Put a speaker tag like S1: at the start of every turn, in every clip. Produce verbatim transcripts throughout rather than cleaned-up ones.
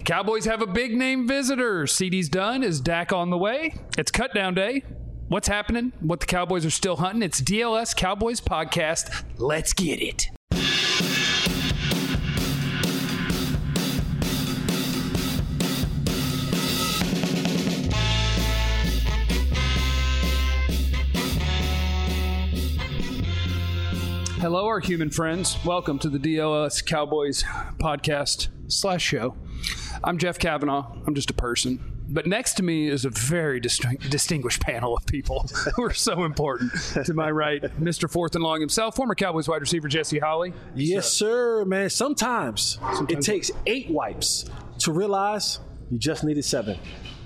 S1: Cowboys have a big name visitor. C D's done. Is Dak on the way? It's cut down day. What's happening? What the Cowboys are still hunting? It's D L S Cowboys Podcast. Let's get it. Hello, our human friends. Welcome to the D L S Cowboys Podcast slash show. I'm Jeff Kavanaugh. I'm just a person. But next to me is a very distinct, distinguished panel of people who are so important. To my right, Mister Fourth and Long himself, former Cowboys wide receiver Jesse Holley.
S2: Yes, sir, man. Sometimes, Sometimes it takes eight wipes to realize you just needed seven.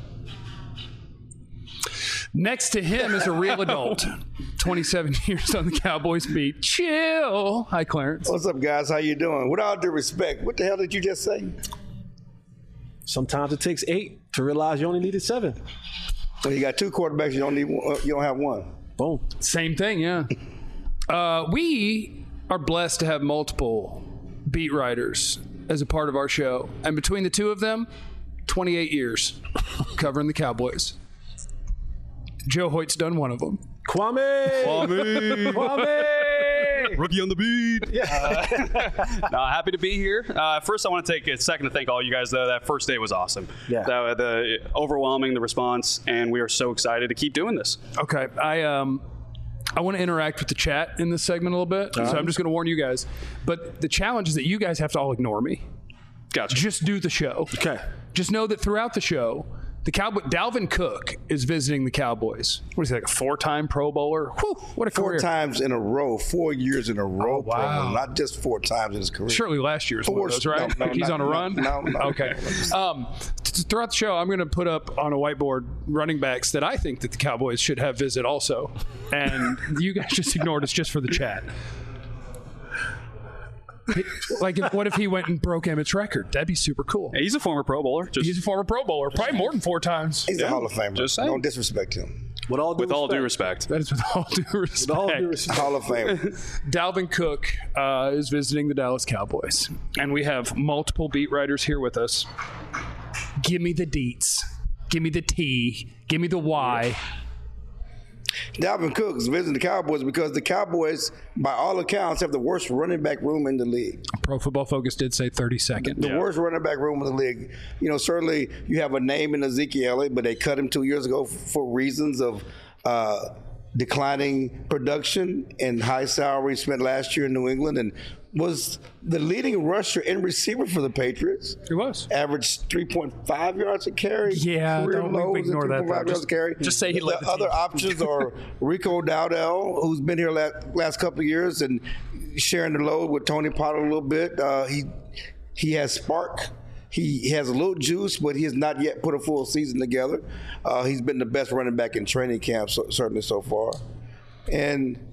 S1: Next to him is a real adult. twenty-seven years on the Cowboys beat. Chill. Hi, Clarence.
S3: What's up, guys? How you doing? With all due respect, what the hell did you just say?
S2: Sometimes it takes eight to realize you only needed seven.
S3: So you got two quarterbacks, you don't need one, you don't have one.
S2: Boom.
S1: Same thing, yeah. uh, we are blessed to have multiple beat writers as a part of our show. And between the two of them, twenty-eight years covering the Cowboys. Joe Hoyt's done one of them.
S2: Kwame!
S4: Kwame!
S2: Kwame!
S4: Rookie on the beat.
S2: Yeah.
S4: Uh, no, happy to be here. Uh, first, I want to take a second to thank all you guys, though. That first day was awesome.
S2: Yeah.
S4: The, the overwhelming, the response, and we are so excited to keep doing this.
S1: Okay. I um, I want to interact with the chat in this segment a little bit, uh-huh. so I'm just going to warn you guys. But the challenge is that you guys have to all ignore me.
S4: Gotcha.
S1: Just do the show.
S2: Okay.
S1: Just know that throughout the show, the Cowboy Dalvin Cook is visiting the Cowboys. What is he, like a four-time Pro Bowler? Whew, what a
S3: four
S1: career.
S3: Four times in a row, four years in a row.
S1: Oh, wow.
S3: Pro Bowl, not just four times in his career.
S1: Surely last year's
S3: four,
S1: one of those, right?
S3: No, no,
S1: like he's
S3: not,
S1: on a run?
S3: No, no.
S1: Okay. Um, th- throughout the show, I'm going to put up on a whiteboard running backs that I think that the Cowboys should have visit also. And you guys just ignored us just for the chat. Like, if, what if he went and broke Emmett's record? That'd be super cool.
S4: Hey, he's a former Pro Bowler. Just,
S1: he's a former Pro Bowler, probably more than four times.
S3: He's
S4: yeah,
S3: a Hall of Famer.
S4: Just saying.
S3: Don't disrespect him.
S2: With all due
S4: with
S2: respect.
S4: all due respect.
S1: That is with all due respect.
S2: With all due respect.
S3: Hall of Famer.
S1: Dalvin Cook uh, is visiting the Dallas Cowboys, and we have multiple beat writers here with us. Give me the deets. Give me the T. Give me the Y.
S3: Dalvin Cook is visiting the Cowboys because the Cowboys, by all accounts, have the worst running back room in the league.
S1: Pro Football Focus did say thirty-second.
S3: The
S4: yeah.
S3: worst running back room in the league. You know, certainly you have a name in Ezekiel Elliott, but they cut him two years ago for reasons of uh, declining production and high salary spent last year in New England, and was the leading rusher and receiver for the Patriots.
S1: He was.
S3: Averaged three point five yards a carry.
S1: Yeah,
S3: Career
S1: don't we
S3: lows
S1: ignore
S3: at
S1: that,
S3: three point five
S1: though.
S3: yards a carry.
S1: Just say he
S3: the
S1: led the
S3: other
S1: team.
S3: options are Rico Dowdell, who's been here last, last couple of years and sharing the load with Tony Pollard a little bit. Uh, he he has spark. He has a little juice, but he has not yet put a full season together. Uh, he's been the best running back in training camp, so, certainly so far. And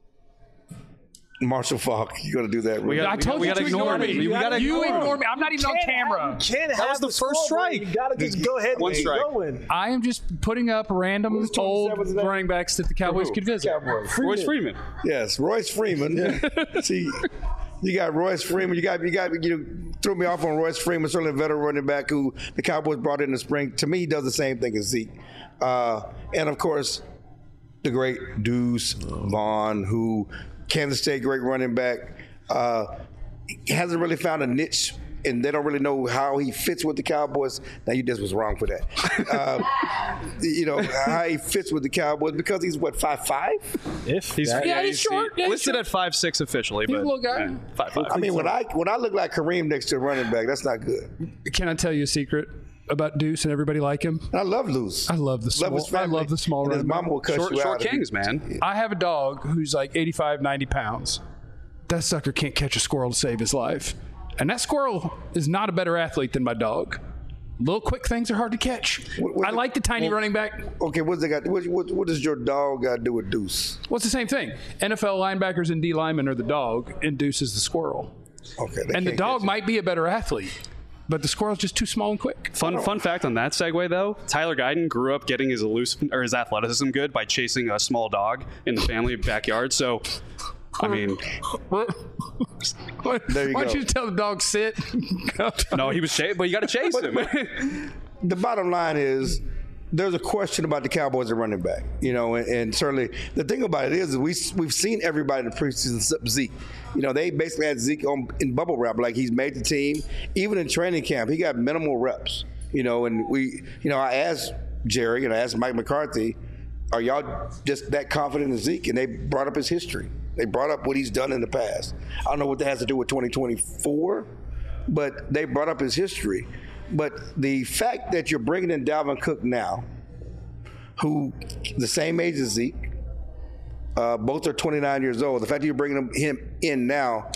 S3: Marshall Faulk, you got to do that.
S4: We
S1: I
S4: got,
S1: told
S4: we
S1: you
S4: gotta
S1: to
S4: ignore
S1: ignore
S4: me.
S1: me.
S4: We gotta
S1: You
S4: ignore
S1: ignore
S4: me.
S1: me. I'm not even on camera.
S2: You can't
S4: That
S2: have
S4: was the first
S2: scoreboard.
S4: strike.
S2: You got to just go ahead and
S4: One
S2: keep
S4: strike.
S2: going.
S1: I am just putting up random
S3: Who's
S1: old
S3: twenty-seventh today?
S1: running backs that the Cowboys could visit.
S3: Cowboys.
S4: Royce Freeman.
S3: Yes, Royce Freeman. See, you got Royce Freeman. You got you got you threw me off on Royce Freeman, certainly a veteran running back who the Cowboys brought in the spring. To me, he does the same thing as Zeke, uh, and of course, the great Deuce Vaughn, who Kansas State great running back, uh, hasn't really found a niche. And they don't really know how he fits with the Cowboys. Now, you just was wrong for that. Uh, you know, how he fits with the Cowboys because he's, what, five five?
S2: If
S4: He's,
S2: that,
S1: Yeah, he's short. Yeah, he's
S4: listed
S1: short.
S4: at five six officially,
S1: He's
S4: but
S1: a little guy.
S4: yeah, five five.
S3: I mean, when I when I look like Kareem next to a running back, that's not good.
S1: Can I tell you a secret about Deuce and everybody like him?
S3: And I love Luz.
S1: I love the small.
S3: Love his
S1: I
S3: family.
S1: love the small
S3: And his
S1: running
S3: mama
S1: back.
S3: will cut
S4: Short,
S3: you
S4: short
S3: out. if
S4: kings,
S3: you-
S4: man.
S1: I have a dog who's like eighty-five, ninety pounds. That sucker can't catch a squirrel to save his life. And that squirrel is not a better athlete than my dog. Little quick things are hard to catch.
S3: What- what
S1: I
S3: the-
S1: like the tiny
S3: well-
S1: running back.
S3: Okay, what's they got? What, what, what does your dog got to do with Deuce?
S1: Well, it's the same thing. N F L linebackers and D linemen are the dog, and Deuce is the squirrel.
S3: Okay, they
S1: And the
S3: can't
S1: dog
S3: catch it.
S1: might be a better athlete, but the squirrel's just too small and quick.
S4: Fun fun fact on that segue though, Tyler Guyton grew up getting his elusive or his athleticism good by chasing a small dog in the family backyard. So I mean,
S3: There you
S1: Why
S3: go.
S1: don't you tell the dog sit?
S4: no, he was chasing, but you got to chase him.
S3: The bottom line is there's a question about the Cowboys at running back, you know, and, and certainly the thing about it is we we've seen everybody in the preseason except Zeke. You know, they basically had Zeke on in bubble wrap, like he's made the team. Even in training camp, he got minimal reps. You know, and we, you know, I asked Jerry and I asked Mike McCarthy, are y'all just that confident in Zeke? And they brought up his history. They brought up what he's done in the past. I don't know what that has to do with twenty twenty-four, but they brought up his history. But the fact that you're bringing in Dalvin Cook now, who the same age as Zeke, uh, both are twenty-nine years old. The fact that you're bringing him, him in now,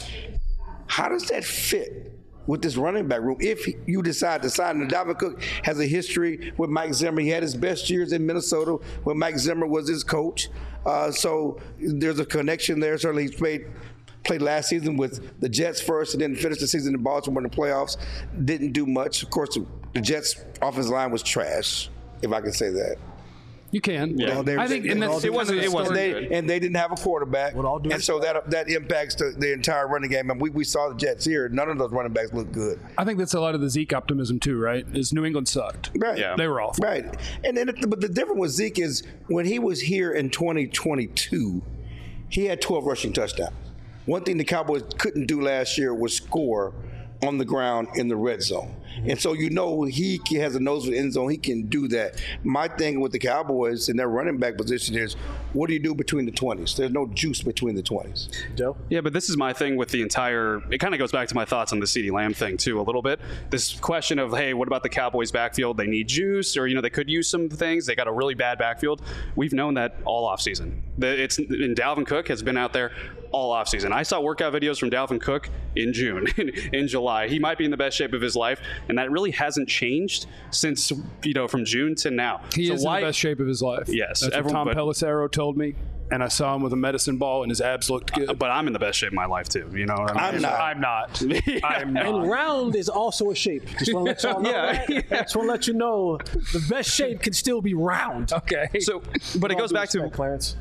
S3: how does that fit with this running back room if you decide to sign him? Dalvin Cook has a history with Mike Zimmer. He had his best years in Minnesota when Mike Zimmer was his coach. Uh, so there's a connection there. Certainly he's played played last season with the Jets first and then finished the season in Baltimore in the playoffs. Didn't do much. Of course, the Jets' offensive line was trash, if I can say that.
S1: You can.
S4: Yeah.
S3: Well, they-
S1: I think,
S3: they-
S1: and that's
S3: they-
S4: it wasn't-
S1: kind of
S4: it
S1: the
S4: wasn't
S1: story.
S3: they,
S4: good.
S3: and they didn't have a quarterback,
S2: With all due
S3: and so that that impacts the, the entire running game. And we, we saw the Jets here; none of those running backs look good.
S1: I think that's a lot of the Zeke optimism too, right? Is New England sucked.
S3: Right?
S4: Yeah.
S1: They were awful.
S3: Right. And then, but the difference with Zeke is when he was here in twenty twenty-two, he had twelve rushing touchdowns. One thing the Cowboys couldn't do last year was score on the ground in the red zone. And so you know he has a nose for the end zone. He can do that. My thing with the Cowboys in their running back position is, what do you do between the twenties? There's no juice between the twenties.
S2: Joe?
S4: Yeah, but this is my thing with the entire. It kind of goes back to my thoughts on the CeeDee Lamb thing too, a little bit. This question of, hey, what about the Cowboys' backfield? They need juice, or you know, they could use some things. They got a really bad backfield. We've known that all offseason. The, it's and Dalvin Cook has been out there all offseason. I saw workout videos from Dalvin Cook in June, in July. He might be in the best shape of his life, and that really hasn't changed since you know from June to now.
S1: He
S4: so
S1: is
S4: why,
S1: in the best shape of his life.
S4: Yes,
S1: That's what
S4: everyone-
S1: Tom
S4: but-
S1: Pelissero told me. And I saw him with a medicine ball, and his abs looked good.
S4: But I'm in the best shape of my life too. You know, what I
S3: I'm
S4: mean?
S3: not.
S1: I'm not. I'm
S2: And
S1: not.
S2: round is also a shape. Just want to let y'all know
S4: Yeah,
S2: that.
S4: yeah.
S2: Just want to let you know the best shape can still be round.
S1: Okay.
S4: So, but it
S2: With all
S4: goes
S2: due
S4: back to
S2: respect, Clarence.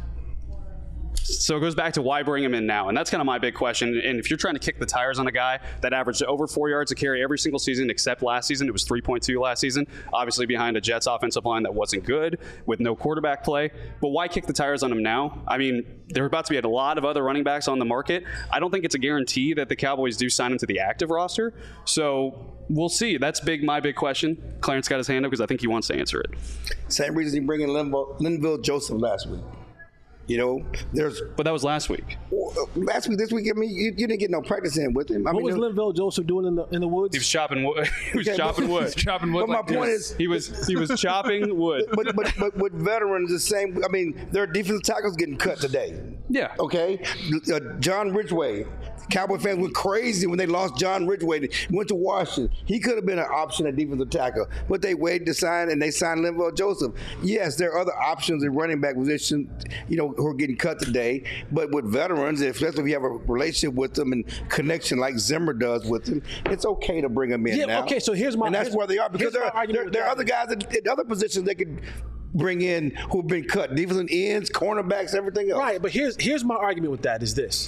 S4: So it goes back to why bring him in now, and that's kind of my big question. And if you're trying to kick the tires on a guy that averaged over four yards a carry every single season, except last season, it was three point two last season, obviously behind a Jets offensive line that wasn't good with no quarterback play. But why kick the tires on him now? I mean, there are about to be a lot of other running backs on the market. I don't think it's a guarantee that the Cowboys do sign him to the active roster. So we'll see. That's big. My big question. Clarence got his hand up because I think he wants to answer it.
S3: Same reason he bring in Linville, Linville Joseph last week. You know, there's
S4: But that was last week.
S3: last week, this week. I mean, you, you didn't get no practice in with him. I
S2: What
S3: mean,
S2: was
S3: there-
S2: Linville Joseph doing in the in the woods?
S4: He was chopping wood. he was
S3: Okay,
S4: chopping
S3: but-
S4: wood.
S1: chopping wood.
S3: But my
S1: like
S3: point
S1: this.
S3: is,
S4: He was he was chopping wood.
S3: but, but but with veterans, the same. I mean, their defensive tackles getting cut today.
S4: Yeah.
S3: Okay, uh, John Ridgeway. Cowboy fans went crazy when they lost John Ridgeway. They went to Washington. He could have been an option at defensive tackle, but they waited to sign and they signed Linville Joseph. Yes, there are other options in running back position, you know, who are getting cut today. But with veterans, especially if you have a relationship with them and connection like Zimmer does with them, it's okay to bring them in
S2: Yeah,
S3: now.
S2: okay, so here's my-
S3: and that's
S2: here's-
S3: where they are because
S2: here's
S3: there
S2: my
S3: are,
S2: argument
S3: there,
S2: with
S3: there are
S2: that.
S3: other guys at, at other positions they could bring in who've been cut, defensive ends, cornerbacks, everything else.
S2: Right, but here's here's my argument with that is this.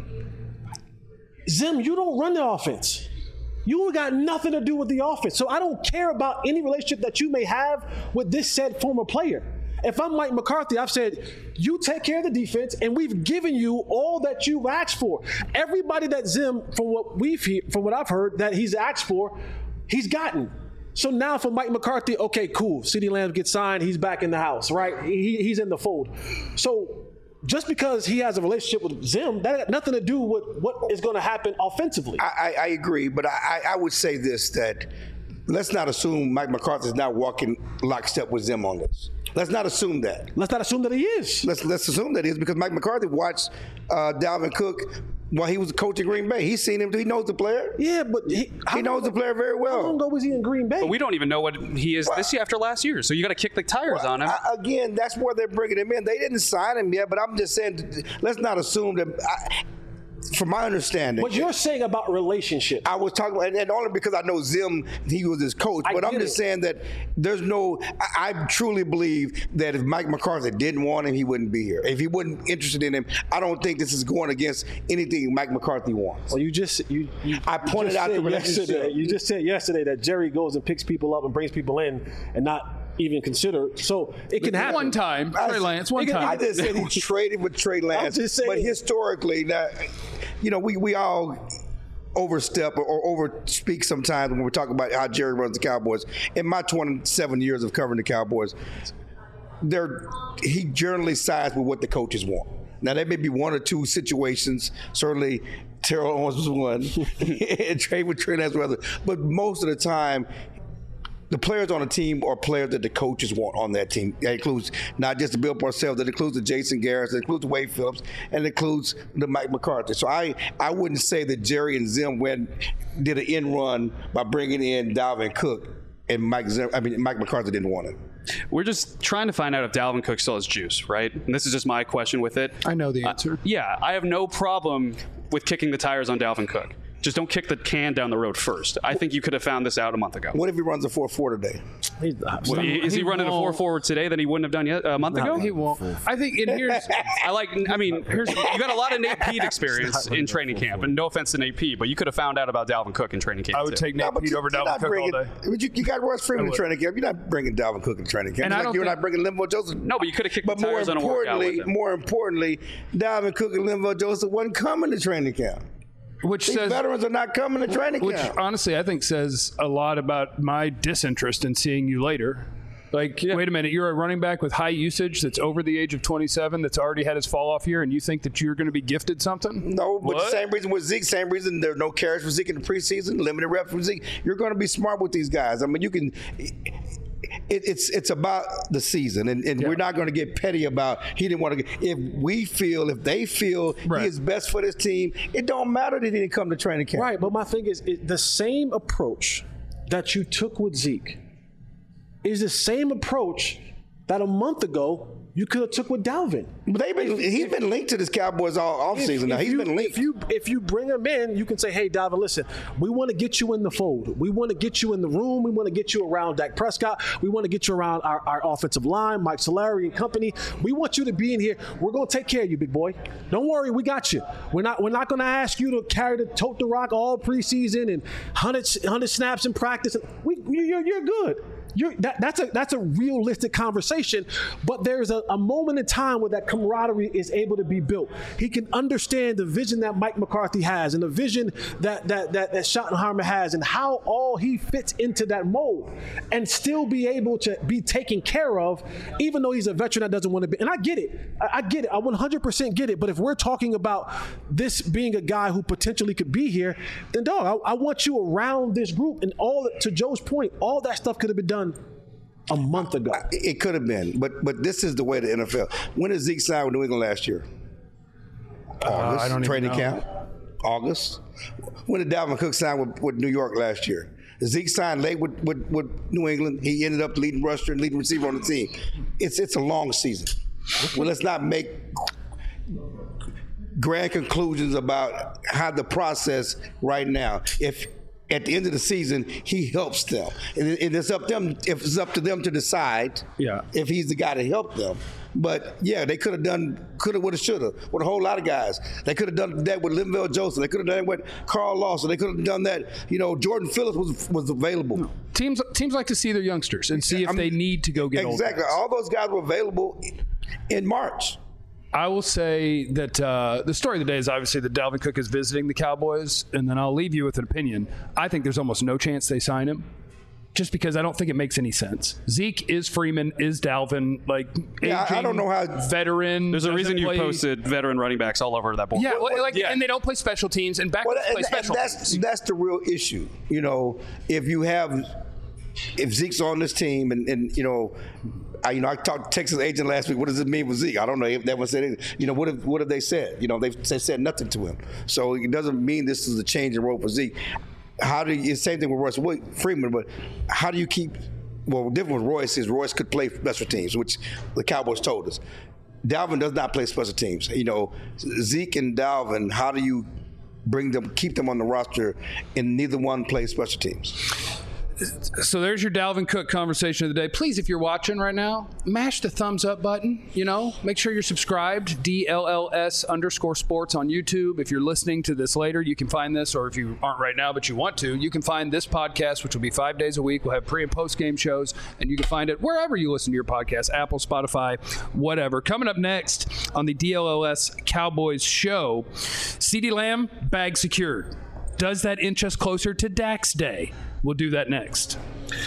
S2: Zim, you don't run the offense. You got nothing to do with the offense. So I don't care about any relationship that you may have with this said former player. If I'm Mike McCarthy, I've said, you take care of the defense, and we've given you all that you've asked for. Everybody that Zim, from what we've he- from what I've heard, that he's asked for, he's gotten. So now for Mike McCarthy, okay, cool. CeeDee Lamb gets signed, he's back in the house, right? He, he's in the fold. So just because he has a relationship with Zim, that had nothing to do with what is going to happen offensively.
S3: I, I, I agree, but I, I would say this, that let's not assume Mike McCarthy is not walking lockstep with Zim on this. Let's not assume that.
S2: Let's not assume that he is.
S3: Let's let's assume that is because Mike McCarthy watched uh, Dalvin Cook while he was a coach at Green Bay. He's seen him. He knows the player.
S2: Yeah, but he,
S3: He knows the player very well.
S2: How long ago was he in Green Bay?
S4: But we don't even know what he is this year after last year. So you got to kick the tires on him.
S3: I, again, that's where they're bringing him in. They didn't sign him yet, but I'm just saying, let's not assume that. I, from my understanding,
S2: what you're saying about relationships.
S3: I was talking, and, and only because I know Zim, he was his coach.
S2: I
S3: But I'm
S2: get
S3: just
S2: it.
S3: saying that there's no. I, I truly believe that if Mike McCarthy didn't want him, he wouldn't be here. If he wasn't interested in him, I don't think this is going against anything Mike McCarthy wants.
S2: Well, you just you. you
S3: I
S2: you
S3: pointed
S2: just
S3: out the
S2: said
S3: relationship.
S2: yesterday- You just said yesterday that Jerry goes and picks people up and brings people in, and not even consider. So it can happen.
S1: One time, Trey Lance, one
S2: It can-
S1: time.
S3: I just said he traded with Trey Lance,
S2: just saying.
S3: but historically, now, you know, we we all overstep or, or overspeak sometimes when we're talking about how Jerry runs the Cowboys. In my twenty-seven years of covering the Cowboys, they're, he generally sides with what the coaches want. Now, there may be one or two situations. Certainly, Terrell Owens was one, and Trey with Trey Lance was other. But most of the time, the players on the team are players that the coaches want on that team. That includes not just the Bill Parcells, that includes the Jason Garrett, that includes Wade Phillips, and it includes the Mike McCarthy. So I, I wouldn't say that Jerry and Zim went did an end run by bringing in Dalvin Cook, and Mike Zim, I mean Mike McCarthy didn't want him.
S4: We're just trying to find out if Dalvin Cook still has juice, right? And this is just my question with it.
S1: I know the answer.
S4: Uh, yeah, I have no problem with kicking the tires on Dalvin Cook. Just don't kick the can down the road first. I think you could have found this out a month ago.
S3: What if he runs a four four today?
S2: He's-
S4: Well, is he,
S1: he
S4: running a four
S1: won't.
S4: forward today that he wouldn't have done yet a month ago?
S1: He won't. I think, and here's,
S4: I like. I mean, here's you got a lot of Nate Pete experience in training camp, and no offense to Nate Pete, but you could have found out about Dalvin Cook in training camp.
S1: I would
S4: too.
S1: take Nate
S3: No, but
S1: Pete
S3: you-
S1: over
S3: you're
S1: Dalvin
S3: not
S1: Cook
S3: bringing-
S1: all day.
S3: But you, you got Royce Freeman in
S1: would.
S3: training camp. You're not bringing Dalvin Cook in training camp.
S1: And I
S3: Like
S1: don't
S3: you're
S1: think-
S3: not bringing Linval Joseph.
S4: No, but you could have kicked
S3: But
S4: the
S3: more
S4: tires on a workout
S3: importantly,
S4: with him.
S3: more importantly, Dalvin Cook and Linval Joseph wasn't coming to training camp.
S1: Which
S3: These
S1: says,
S3: veterans are not coming to training
S1: which
S3: camp.
S1: honestly I think says a lot about my disinterest in seeing you later. Like, wait a minute, you're a running back with high usage that's over the age of twenty-seven that's already had his fall off year, and you think that you're going to be gifted something?
S3: No, but
S1: What?
S3: the same reason with Zeke, same reason there's no carries for Zeke in the preseason, limited reps for Zeke. You're going to be smart with these guys. I mean, you can. It, it's it's about the season, and, and
S1: Yeah.
S3: we're not going to get petty about he didn't want to. Get, if we feel, if they feel
S1: Right.
S3: he is best for this team, it don't matter that he didn't come to training camp.
S2: Right, but my thing is, it, the same approach that you took with Zeke is the same approach that a month ago you could have took with Dalvin.
S3: But they've been he's been linked to this Cowboys all offseason now.
S2: If
S3: He's
S2: you,
S3: been linked.
S2: If you if you bring him in, you can say, "Hey, Dalvin, listen, we want to get you in the fold. We want to get you in the room. We want to get you around Dak Prescott. We want to get you around our, our offensive line, Mike Solari and company. We want you to be in here. We're going to take care of you, big boy. Don't worry, we got you. We're not we're not going to ask you to carry the tote the rock all preseason and one hundred snaps in practice. We you're you're good." You're, that, that's a that's a realistic conversation, but there's a, a moment in time where that camaraderie is able to be built. He can understand the vision that Mike McCarthy has and the vision that that that, that Schottenheimer has and how all he fits into that mold, and still be able to be taken care of, even though he's a veteran that doesn't want to be. And I get it, I, I get it, I one hundred percent get it. But if we're talking about this being a guy who potentially could be here, then dog, I, I want you around this group. And all to Joe's point, all that stuff could have been done a month ago.
S3: It could have been, but but this is the way the N F L. When did Zeke sign with New England last year? August.
S1: I don't even
S3: Training
S1: know.
S3: camp. August. When did Dalvin Cook sign with, with New York last year? Zeke signed late with, with, with New England. He ended up leading rusher and leading receiver on the team. It's it's a long season. Well, let's not make grand conclusions about how the process right now. If at the end of the season he helps them, and it- and it's up them. If it's up to them to decide,
S1: Yeah.
S3: if he's the guy to help them. But yeah, they could have done, could have, would have, should have, with a whole lot of guys. They could have done that with Linval Joseph. They could have done it with Carl Lawson. They could have done that. You know, Jordan Phillips was was available.
S1: Teams teams like to see their youngsters and see if
S3: I mean,
S1: they need to go get old
S3: exactly.
S1: guys.
S3: All those guys were available in March.
S1: I will say that uh, the story of the day is obviously that Dalvin Cook is visiting the Cowboys, and then I'll leave you with an opinion. I think there's almost no chance they sign him, just because I don't think it makes any sense. Zeke is Freeman, is Dalvin, like
S3: Yeah, I- I
S1: aging
S3: don't know how-
S1: veteran.
S4: There's a
S1: doesn't
S4: reason you
S1: play-
S4: posted veteran running backs all over that board.
S1: Yeah, well, like,
S4: Yeah.
S1: and they don't play special teams, and backups
S3: Well,
S1: play
S3: and, and
S1: special
S3: that's
S1: teams.
S3: that's the real issue. You know, if you have, if Zeke's on this team, and, and you know, I, you know, I talked to Texas agent last week. What does it mean with Zeke? I don't know if that one said anything. You know, what have what have they said? You know, they've they said nothing to him. So it doesn't mean this is a change in role for Zeke. How do you? It's the same thing with Royce Freeman, but how do you keep? Well, different with Royce is Royce could play special teams, which the Cowboys told us. Dalvin does not play special teams. You know, Zeke and Dalvin, how do you bring them, keep them on the roster, and neither one plays special teams.
S1: So there's your Dalvin Cook conversation of the day. Please, if you're watching right now, mash the thumbs up button. You know, make sure you're subscribed. D L L S underscore sports on YouTube. If you're listening to this later, you can find this, or if you aren't right now but you want to, you can find this podcast, which will be five days a week. We'll have pre and post game shows, and you can find it wherever you listen to your podcast, Apple, Spotify, whatever. Coming up next on the D L L S Cowboys show, CeeDee Lamb, bag secured. Does that inch us closer to Dak's day? We'll do that next.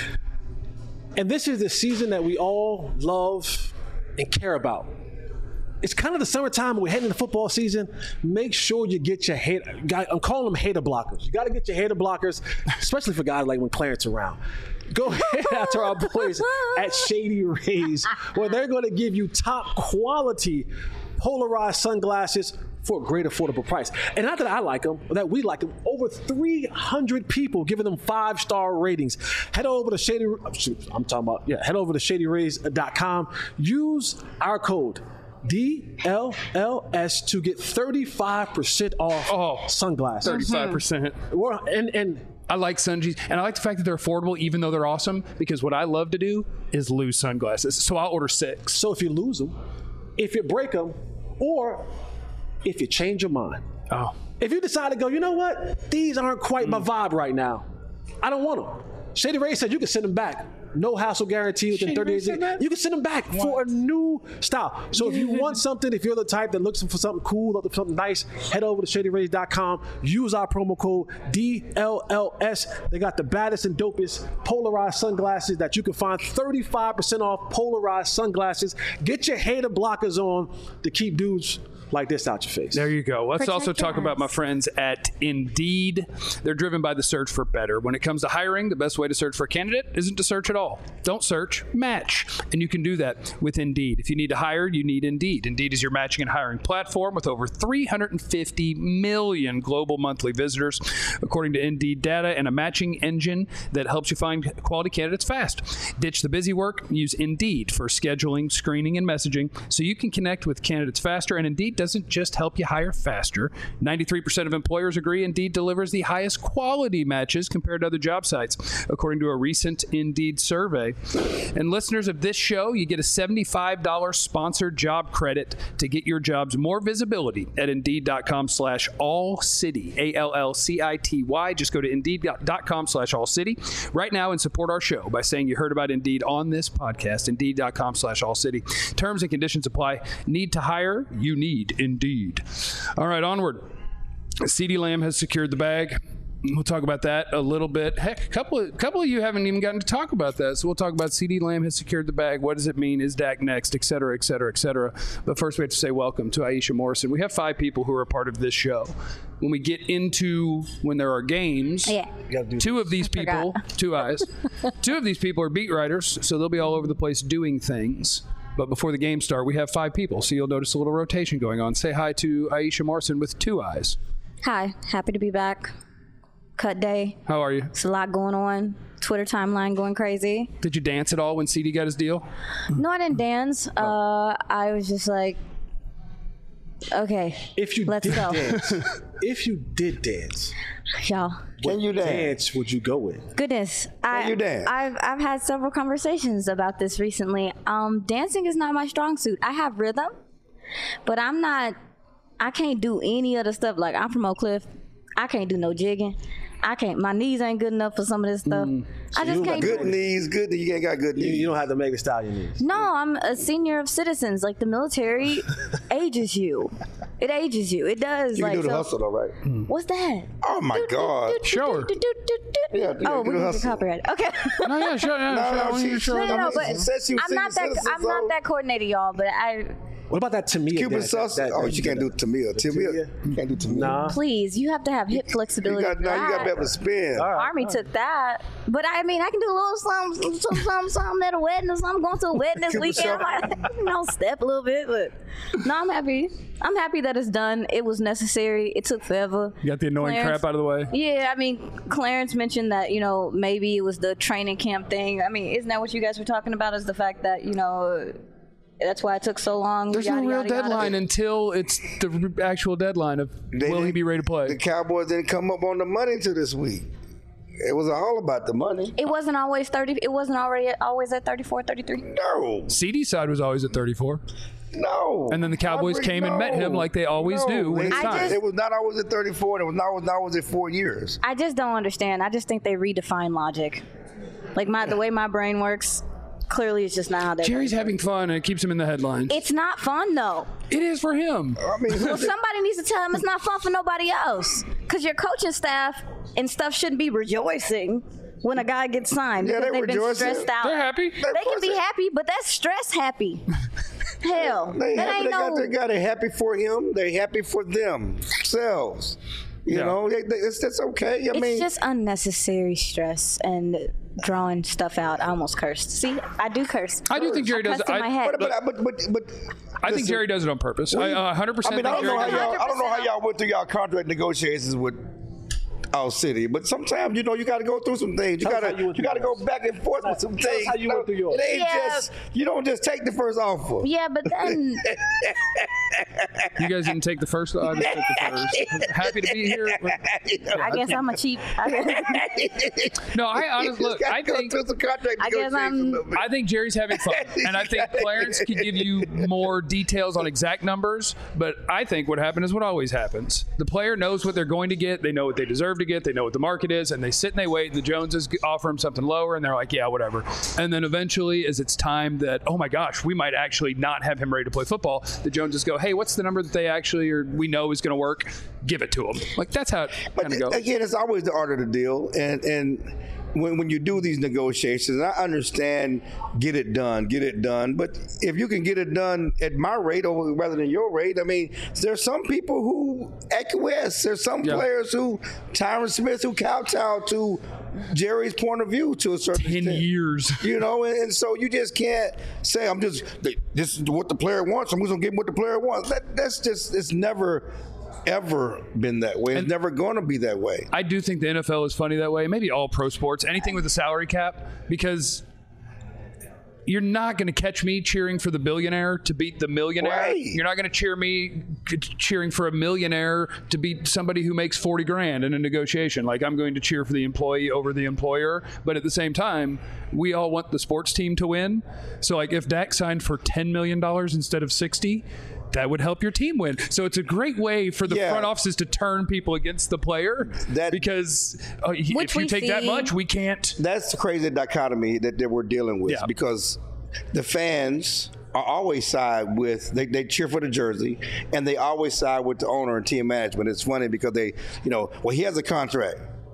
S2: And this is the season that we all love and care about. It's kind of the summertime. We're heading into football season. Make sure you get your head. I'm calling them hater blockers. You got to get your hater blockers, especially for guys like when Clarence around. Go ahead out to our boys at Shady Rays, where they're going to give you top quality polarized sunglasses for a great affordable price. And not that I like them, or that we like them, over three hundred people giving them five-star ratings. Head over to Shady, I'm talking about, yeah, head over to shady rays dot com. Use our code D L L S to get thirty-five percent off
S1: oh,
S2: sunglasses.
S1: thirty-five percent.
S2: Mm-hmm. And, and
S1: I like Sungees, and I like the fact that they're affordable even though they're awesome, because what I love to do is lose sunglasses. So I'll order six.
S2: So if you lose them, if you break them, or if you change your mind.
S1: Oh.
S2: If you decide to go, you know what? These aren't quite mm. my vibe right now. I don't want them. Shady Ray said you can send them back. No hassle guarantee within thirty days. You can send them back what? for a new style. So if you want something, if you're the type that looks for something cool, looking for something nice, head over to shady rays dot com. Use our promo code D L L S. They got the baddest and dopest polarized sunglasses that you can find. thirty-five percent off polarized sunglasses. Get your hater blockers on to keep dudes like this out your face.
S1: There you go. Let's
S5: Protect
S1: also talk
S5: eyes.
S1: about my friends at Indeed. They're driven by the search for better. When it comes to hiring, the best way to search for a candidate isn't to search at all. Don't search, match. And you can do that with Indeed. If you need to hire, you need Indeed. Indeed is your matching and hiring platform with over three hundred fifty million global monthly visitors, according to Indeed data, and a matching engine that helps you find quality candidates fast. Ditch the busy work. Use Indeed for scheduling, screening, and messaging so you can connect with candidates faster. And Indeed doesn't just help you hire faster. ninety-three percent of employers agree Indeed delivers the highest quality matches compared to other job sites, according to a recent Indeed survey. And listeners of this show, you get a seventy-five dollars sponsored job credit to get your jobs more visibility at Indeed.com slash all city, A L L C I T Y. Just go to Indeed.com slash all city right now and support our show by saying you heard about Indeed on this podcast. Indeed.com slash all city. Terms and conditions apply. Need to hire? You need Indeed. All right, onward. CeeDee Lamb has secured the bag. We'll talk about that a little bit. Heck, a couple of, couple of you haven't even gotten to talk about that, so we'll talk about CeeDee Lamb has secured the bag. What does it mean? Is Dak next? Et cetera, et cetera, et cetera. But first, we have to say welcome to Aisha Morrison. We have five people who are a part of this show. When we get into when there are games,
S5: yeah.
S1: two of these
S5: I
S1: people,
S5: forgot.
S1: two eyes, two of these people are beat writers, so they'll be all over the place doing things. But before the game start, we have five people, so you'll notice a little rotation going on. Say hi to Aisha Morrison with two eyes.
S5: Hi, happy to be back. Cut day.
S1: How are you?
S5: It's a lot going on. Twitter timeline going crazy.
S1: Did you dance at all when CeeDee got his deal?
S5: No, I didn't dance. Uh, I was just like, okay,
S2: if you
S5: let's
S2: did
S5: go.
S2: dance, if you did dance,
S5: Y'all.
S3: Can you dance?
S2: dance would you go with?
S5: Goodness, I,
S3: you dance?
S5: I've I've had several conversations about this recently. Um, dancing is not my strong suit. I have rhythm, but I'm not. I can't do any other stuff. Like, I'm from Oak Cliff. I can't do no jigging. I can't. My knees ain't good enough for some of this stuff.
S2: Mm.
S5: I just can't.
S3: Good
S5: do it.
S3: knees, good. You ain't got good
S2: You,
S3: knees.
S2: you don't have the Megan Stallion knees.
S5: No, I'm a senior of citizens. Like, the military ages you. It ages you. It does.
S3: You
S5: like,
S3: can do the
S5: so-
S3: hustle, though, right?
S5: What's that?
S3: Oh my God!
S1: Show her.
S3: Yeah, yeah,
S5: Oh,
S3: do
S5: we
S3: the
S5: can
S3: hustle.
S5: copyright. Okay.
S1: No, yeah, sure, yeah,
S3: No,
S1: sure.
S3: no,
S1: I want you to
S3: she-
S1: show
S5: No, no,
S1: them.
S5: no,
S3: She
S5: but
S3: said she was
S5: I'm not
S3: senior
S5: that.
S3: citizen,
S5: I'm not
S3: so-
S5: that coordinated, y'all. But I
S2: What about that Tamia
S3: Cuban
S2: dance?
S3: sauce?
S2: That- that-
S3: Oh,
S2: that
S3: you can't do Tamia. Tamia, you can't do Tamia.
S2: Nah.
S5: please, you have to have hip
S3: You
S5: flexibility.
S3: got,
S5: for
S3: now you got to
S5: that.
S3: be able to spin.
S2: All right.
S5: Army took that, but I mean, I can do a little something, something, something, something at a wedding or something. Going to a wedding this
S3: Cupid
S5: weekend, I
S3: shuffle.
S5: might, you know, step a little bit. But no, I'm happy. I'm happy that it's done. It was necessary. It took forever.
S1: You got the annoying
S5: Clarence-
S1: crap out of the way.
S5: Yeah, I mean, Clarence mentioned that, you know, maybe it was the training camp thing. I mean, isn't that what you guys were talking about? Is the fact that, you know, That's why it took so long.
S1: There's
S5: yada,
S1: no real
S5: yada, yada.
S1: deadline until it's the actual deadline of
S3: They
S1: will he
S3: didn't-
S1: be ready to play.
S3: The Cowboys didn't come up on the money until this week. It was all about the money.
S5: It wasn't always thirty. It wasn't already always at thirty-four, thirty-three.
S3: No,
S1: C D's side was always at thirty-four.
S3: no.
S1: And then the Cowboys
S3: Roderick,
S1: came and met him like they always
S3: no.
S1: do when
S3: It-
S1: it's
S5: I
S1: time.
S5: just-
S3: It was not always at thirty-four. And it was not, was not always at four years.
S5: I just don't understand. I just think they redefine logic. Like my the way my brain works, clearly it's just not how they.
S1: Jerry's having fun and it keeps him in the headlines.
S5: It's not fun though.
S1: It is for him.
S3: I mean, who
S5: Well,
S3: did-
S5: somebody needs to tell him it's not fun for nobody else. Because your coaching staff and stuff shouldn't be rejoicing when a guy gets signed.
S3: Yeah,
S5: because
S3: they
S5: they've been
S3: rejoicing.
S5: stressed out.
S1: They're happy.
S5: They can be happy, but that's stress happy. Hell,
S3: They,
S5: that
S3: happy,
S5: ain't
S3: they, got,
S5: no.
S3: they got it happy for him. They happy for themselves. You
S1: Yeah.
S3: know, they, they, it's that's okay. I
S5: It's
S3: mean,
S5: just unnecessary stress and drawing stuff out. I almost cursed. See, I do curse.
S1: I do think Jerry does
S5: cussed
S1: it.
S5: in my
S1: I,
S5: head.
S3: but, but, but, but, but
S1: I think
S3: listen,
S1: Jerry does it on purpose. I uh, one hundred percent
S3: I mean, I
S1: think
S3: don't know
S1: Jerry
S3: how
S1: does it.
S3: y'all. I don't know how y'all went through y'all contract negotiations with our city, but sometimes you know you got to go through some things. You
S2: Tell us
S3: got
S2: how you
S3: to
S2: went
S3: you
S2: through
S3: got to go
S2: yours.
S3: back and forth with some
S2: Tell us
S3: things.
S2: how you went through yours.
S3: It ain't
S5: Yeah.
S3: just you don't just take the first offer.
S5: Yeah, but then
S1: You guys didn't take the first. I just took the first. Happy to be here.
S5: I guess I'm a cheap. I guess,
S1: No, I honestly
S3: You
S1: look.
S3: just
S1: I
S3: gotta go
S1: think
S3: through some contract
S5: I guess I'm-
S3: negotiations a little bit.
S1: I think Jerry's having fun, and I think Clarence could give you more details on exact numbers. But I think what happened is what always happens: the player knows what they're going to get, they know what they deserve to get, they know what the market is, and they sit and they wait. And the Joneses offer them something lower, and they're like, "Yeah, whatever." And then eventually, as it's time that, oh my gosh, we might actually not have him ready to play football, the Joneses go, "Hey, what's the number that they actually or we know is going to work? Give it to them." Like that's how it
S3: But
S1: kind of goes.
S3: again, it's always the art of the deal, and and when when you do these negotiations, I understand get it done, get it done. But if you can get it done at my rate or rather than your rate, I mean, there's some people who acquiesce. There's some
S1: Yeah.
S3: players who Tyron Smith who kowtow to Jerry's point of view to a certain
S1: Ten
S3: extent.
S1: years.
S3: You know, and, and so you just can't say I'm just this is what the player wants. I'm just gonna give him what the player wants. That that's just it's never ever been that way. It's
S1: And-
S3: never going to be that way.
S1: I do think the N F L is funny that way. Maybe all pro sports, anything with a salary cap, because you're not going to catch me cheering for the billionaire to beat the millionaire.
S3: Right.
S1: You're not going to cheer me cheering for a millionaire to beat somebody who makes forty grand in a negotiation. Like I'm going to cheer for the employee over the employer. But at the same time, we all want the sports team to win. So like if Dak signed for ten million dollars instead of sixty, that would help your team win. So it's a great way for the
S3: Yeah.
S1: front offices to turn people against the player.
S3: That-
S1: because uh, if
S5: Which
S1: you
S5: we
S1: take that
S5: see.
S1: much, we can't.
S3: That's the crazy dichotomy that, that we're dealing with
S1: Yeah.
S3: because the fans are always side with they, they cheer for the jersey and they always side with the owner and team management. It's funny because they, you know, well he has a contract.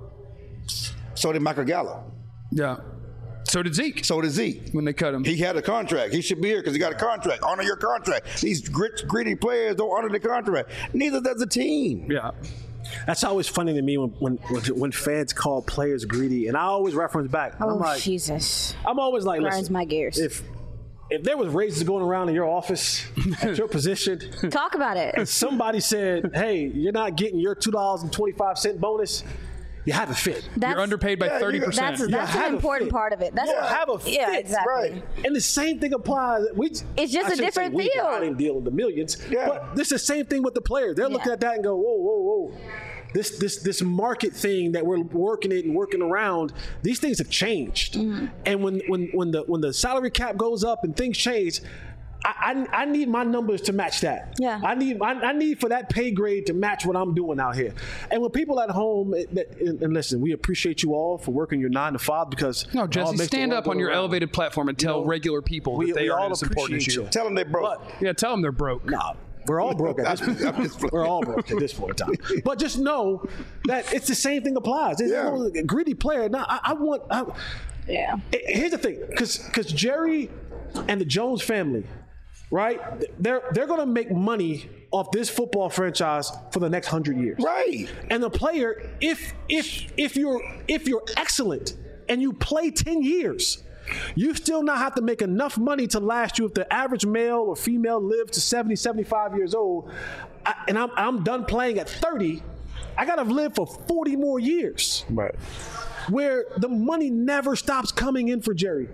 S3: So did Michael Gallup.
S1: Yeah. So did Zeke
S3: So did Zeke.
S1: when they cut him.
S3: He had a contract. He should be here because he got a contract. Honor your contract. These grit, greedy players don't honor the contract. Neither does the team.
S1: yeah.
S2: That's always funny to me when, when when when fans call players greedy, and I always reference back.
S5: oh
S2: I'm like,
S5: Jesus,
S2: I'm always like,
S5: grinds
S2: listen,
S5: my gears.
S2: if if there was raises going around in your office at your position,
S5: Talk about it.
S2: somebody said, "Hey, you're not getting your two dollars and twenty five cent bonus. You have a fit."
S5: That's,
S1: You're underpaid by
S3: Yeah,
S1: thirty
S3: you-
S1: percent.
S5: That's
S2: You
S5: that's
S2: have
S5: an
S2: a
S5: important
S2: fit.
S5: part of it. That's
S2: You
S5: what,
S2: have a
S5: yeah,
S2: fit,
S5: exactly.
S3: Right.
S2: And the same thing applies. We,
S5: It's just
S2: I
S5: a
S2: shouldn't say
S5: different
S2: we, 'cause I
S5: field.
S2: didn't deal with the millions.
S3: Yeah.
S2: But this is the same thing with the players. They're looking
S5: Yeah.
S2: at that and go, whoa, whoa, whoa. This this this market thing that we're working it and working around, these things have changed.
S5: Mm-hmm.
S2: And when when when the when the salary cap goes up and things change, I, I, I need my numbers to match that.
S5: Yeah.
S2: I need I, I need for that pay grade to match what I'm doing out here. And when people at home, it- that- and, and listen, we appreciate you all for working your nine to five because
S1: No,
S2: it all
S1: Jesse,
S2: makes the
S1: stand
S2: world
S1: up
S2: go
S1: on your
S2: around.
S1: elevated platform and tell
S2: know,
S1: regular people
S2: we-
S1: that they
S2: we
S1: are
S2: all
S1: as important as
S2: appreciate
S1: you.
S2: you.
S3: Tell them they broke.
S2: But
S1: Yeah, tell them they're broke.
S2: Nah, we're all broke at this
S3: I'm just
S2: point. We're all broke at this point in time. But just know that it's the same thing applies. There's
S3: Yeah.
S2: no greedy player. Now, I, I want. I,
S5: Yeah.
S2: here's the thing, because because Jerry and the Jones family, right? They're they're going to make money off this football franchise for the next hundred years.
S3: Right.
S2: And the player, if if if you're if you're excellent and you play ten years, you still not have to make enough money to last you if the average male or female lives to seventy, seventy-five years old, I, and I'm I'm done playing at thirty, I gotta live for forty more years.
S3: Right.
S2: Where the money never stops coming in for Jerry.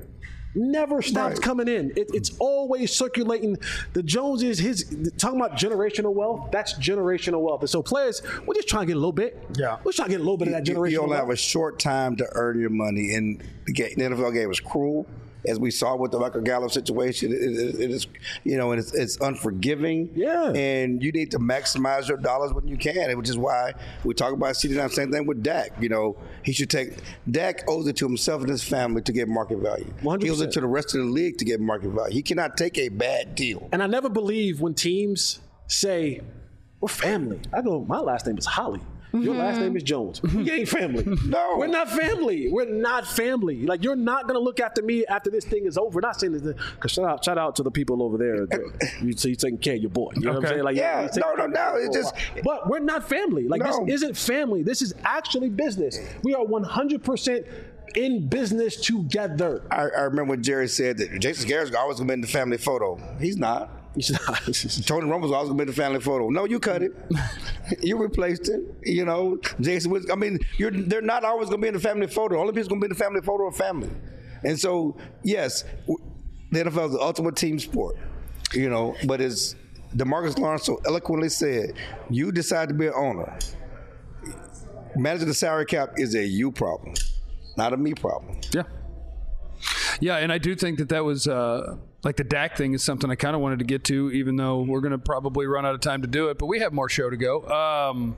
S2: never stops
S3: Right.
S2: coming in. It, it's always circulating. The Jones is his talking about generational wealth. That's generational wealth. And so players, we're just trying to get a little bit.
S1: Yeah.
S2: we're trying to get a little bit of that
S3: You,
S2: generational
S3: you only have a
S2: wealth.
S3: short time to earn your money, and the, game, the N F L game is cruel, as we saw with the Michael Gallup situation. It, it, it is, you know, and it's, it's unforgiving.
S2: Yeah.
S3: And you need to maximize your dollars when you can, which is why we talk about C D nine. Same thing with Dak. You know, he should take. Dak owes it to himself and his family to get market value.
S2: one hundred percent.
S3: He owes it to the rest of the league to get market value. He cannot take a bad deal.
S2: And I never believe when teams say, we're family. I go, my last name is Holly. Your last name is Jones. We ain't family.
S3: No.
S2: We're not family. We're not family. Like, you're not going to look after me after this thing is over. Not saying this, because shout out, shout out to the people over there. You see, taking care of your boy. You know what I'm
S1: Okay.
S2: saying? Like,
S3: Yeah,
S2: he's taking
S3: no, no,
S2: care of
S3: no,
S2: your
S3: it
S2: boy.
S3: just-
S2: But we're not family. Like,
S3: No.
S2: this isn't family. This is actually business. We are one hundred percent in business together.
S3: I, I remember when Jerry said that Jason Garrett's always going to be in the family photo. He's not. Tony Romo's always going to be in the family photo. No, you cut it. You replaced it. You know, Jason was, I mean, you're, they're not always going to be in the family photo. Only people going to be in the family photo are family. And so, yes, the N F L is the ultimate team sport, you know, but as DeMarcus Lawrence so eloquently said, you decide to be an owner. Managing the salary cap is a you problem, not a me problem.
S1: Yeah. Yeah, and I do think that that was uh, like the Dak thing is something I kind of wanted to get to, even though we're going to probably run out of time to do it. But we have more show to go. Um,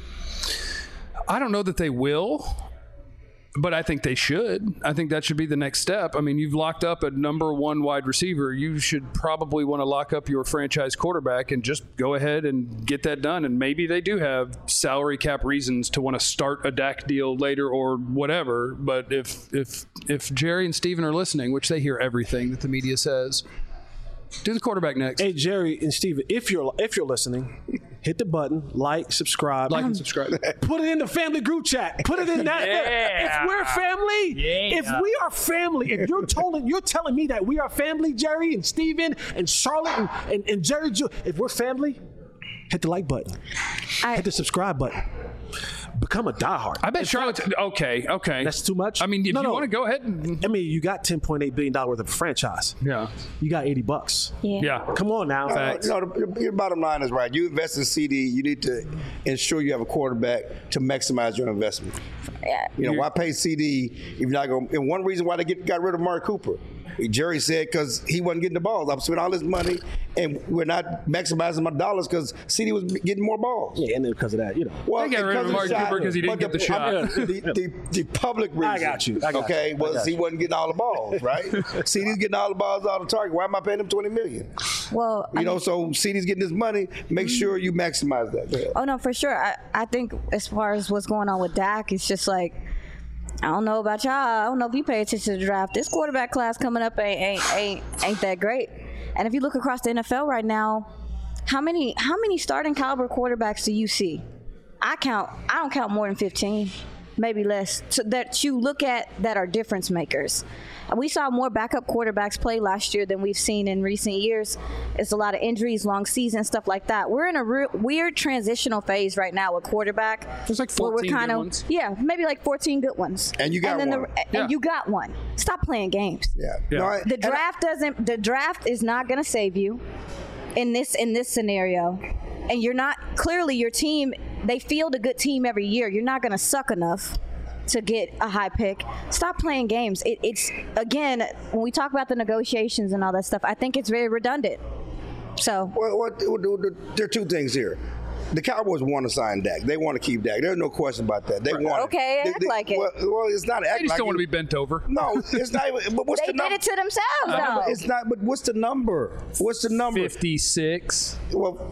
S1: I don't know that they will, but I think they should. I think that should be the next step. I mean, you've locked up a number one wide receiver. You should probably want to lock up your franchise quarterback and just go ahead and get that done. And maybe they do have salary cap reasons to want to start a Dak deal later or whatever. But if if if Jerry and Steven are listening, which they hear everything that the media says, do the quarterback next.
S2: Hey, Jerry and Steven, if you're if you're listening, hit the button, like, subscribe.
S1: Like and subscribe.
S2: Put it in the family group chat. Put it in that.
S1: Yeah.
S2: If we're family,
S1: Yeah.
S2: if we are family, if you're telling you're telling me that we are family, Jerry and Steven and Charlotte and, and, and Jerry, Ju- if we're family, hit the like button.
S5: I-
S2: hit the subscribe button. Become a diehard.
S1: I bet Charlotte's okay. Okay,
S2: That's too much?
S1: I mean, if
S2: No,
S1: you
S2: no.
S1: want to go ahead, and,
S2: I mean, you got ten point eight billion dollars worth of a franchise.
S1: yeah,
S2: You got eighty bucks.
S5: Yeah.
S1: yeah.
S2: Come on now.
S3: Uh, you know, the, your bottom line is right. You invest in C D, you need to ensure you have a quarterback to maximize your investment.
S5: Yeah.
S3: You know, why pay C D if you're not going? And one reason why they get, got rid of Mark Cooper, Jerry said, because he wasn't getting the balls. I'm spending all this money, and we're not maximizing my dollars because C D was getting more balls.
S2: Yeah, and then because of that, you know.
S3: Well,
S1: They got rid of
S3: because
S1: Mark
S3: the shot,
S1: Cooper 'cause he didn't
S3: but
S1: get the shot.
S3: I mean, the, the, the public reason.
S2: I got you. I got
S3: okay,
S2: you. I
S3: was
S2: got
S3: he
S2: you.
S3: wasn't getting all the balls, right? C D's getting all the balls out of the target. Why am I paying him twenty million?
S5: Well,
S3: You
S5: I
S3: know,
S5: mean-
S3: so C D's getting his money. Make sure you maximize that. Go ahead.
S5: Oh no, for sure. I, I think as far as what's going on with Dak, it's just like I don't know about y'all. I don't know if you pay attention to the draft. This quarterback class coming up ain't ain't ain't, ain't that great. And if you look across the N F L right now, how many how many starting caliber quarterbacks do you see? I count. I don't count more than fifteen, maybe less. So that you look at that are difference makers. We saw more backup quarterbacks play last year than we've seen in recent years. It's a lot of injuries, long season, stuff like that. We're in a re- weird transitional phase right now with quarterback.
S1: There's like
S5: where we're
S1: fourteen
S5: kind
S1: good
S5: of
S1: ones.
S5: yeah, maybe like fourteen good ones.
S3: And you got
S5: then
S3: one.
S5: The,
S1: Yeah.
S5: And you got one. Stop playing games.
S3: Yeah.
S1: Yeah.
S3: No, I-
S5: The
S3: and I-
S5: draft doesn't. The draft is not going to save you in this in this scenario, and you're not clearly your team. They field a good team every year. You're not going to suck enough to get a high pick. Stop playing games. It, it's again when we talk about the negotiations and all that stuff. I think it's very redundant. So
S3: Well, what, there are two things here. The Cowboys want to sign Dak. They want to keep Dak. There's no question about that. They want
S5: Okay,
S3: it.
S5: act
S3: They- they-
S5: like it.
S3: Well, well, it's not act
S1: They just
S3: like
S1: don't want to
S3: it.
S1: be bent over.
S3: No, it's not even. But what's
S5: they
S3: the
S5: did
S3: number?
S5: it to themselves,
S3: No,
S5: though.
S3: but it's not. But what's the number? What's the number?
S1: fifty-six.
S3: Well,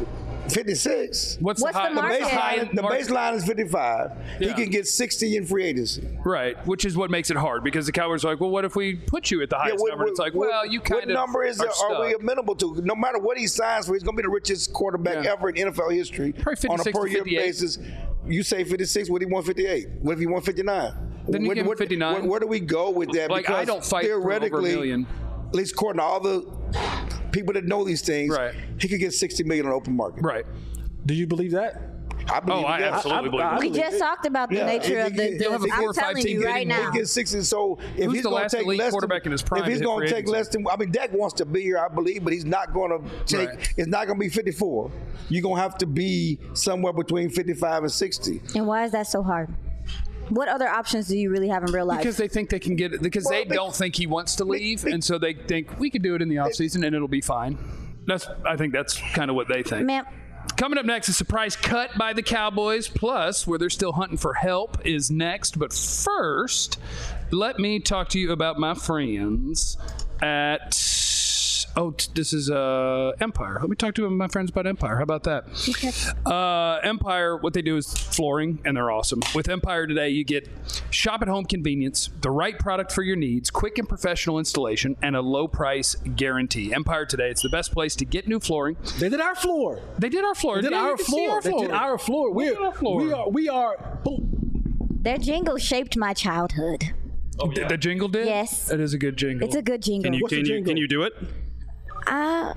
S3: fifty-six.
S1: What's,
S5: What's
S1: the, high,
S5: the market?
S3: Baseline, the
S1: market?
S3: baseline is fifty-five.
S1: Yeah.
S3: He can get sixty in free agency.
S1: Right, which is what makes it hard because the Cowboys are like, well, what if we put you at the
S3: Yeah,
S1: highest
S3: what,
S1: number?
S3: what-
S1: It's like,
S3: what-
S1: well, you kind
S3: what
S1: of
S3: number is
S1: are,
S3: it, are we
S1: stuck.
S3: amenable to? No matter what he signs for, he's going to be the richest quarterback
S1: Yeah.
S3: ever in N F L history
S1: Probably
S3: on a
S1: fifty-six to
S3: per year
S1: fifty-eight.
S3: basis. You say fifty-six. What if he want fifty-eight? What if he want fifty-nine?
S1: Then you
S3: Where-
S1: give him
S3: where-
S1: fifty-nine.
S3: Where, where do we go with that?
S1: Like,
S3: because
S1: I don't fight for over a
S3: theoretically,
S1: million.
S3: at least according to all the people that know these things,
S1: Right.
S3: he could get sixty million on the open market.
S1: Right.
S2: Do you believe that?
S3: I believe
S4: Oh, I
S3: he does.
S4: absolutely
S2: I- I-
S4: believe
S2: I
S4: it.
S5: We
S2: believe
S5: just
S2: it.
S5: talked about the
S3: Yeah,
S5: nature
S3: if
S5: of
S3: he-
S5: the.
S3: if
S1: They'll have a
S5: the
S1: four or
S5: I'm
S1: five
S5: telling
S1: team
S5: you
S1: getting
S5: right
S1: in.
S5: now.
S3: He gets sixty. So if
S1: Who's
S3: he's
S1: the
S3: going
S1: last
S3: to take
S1: elite
S3: less
S1: quarterback
S3: than,
S1: in his prime
S3: if he's
S1: to hit
S3: going
S1: free
S3: to take
S1: agency?
S3: less than, I mean, Dak wants to be here, I believe, but he's not going to take.
S1: Right.
S3: It's not going to be fifty-four. You're going to have to be somewhere between fifty-five and sixty.
S5: And why is that so hard? What other options do you really have in real life?
S1: Because they think they can get it. Because
S3: Well,
S1: they
S3: they-
S1: don't think he wants to leave, and so they think we could do it in the offseason and it'll be fine. That's. I think that's kind of what they think.
S5: Ma'am,
S1: Coming up next, a surprise cut by the Cowboys, plus where they're still hunting for help is next. But first, let me talk to you about my friends at. Oh, t- this is uh, Empire. Let me talk to my friends about Empire. How about that? Uh, Empire, what they do is flooring, and they're awesome. With Empire today, you get shop-at-home convenience, the right product for your needs, quick and professional installation, and a low-price guarantee. Empire today, it's the best place to get new flooring.
S2: They did our floor.
S1: They did our floor.
S2: They did
S1: Yeah, you
S2: our
S1: can see
S2: floor.
S1: our
S2: They did our floor.
S1: Look
S2: We're,
S1: at our floor.
S2: We are. We are. Boom.
S5: their jingle shaped my childhood.
S1: The, the jingle did?
S5: Yes.
S1: It is a good jingle.
S5: It's a good jingle.
S4: Can you,
S2: What's
S4: can,
S2: the
S4: you,
S2: jingle?
S4: can you do it?
S5: Uh,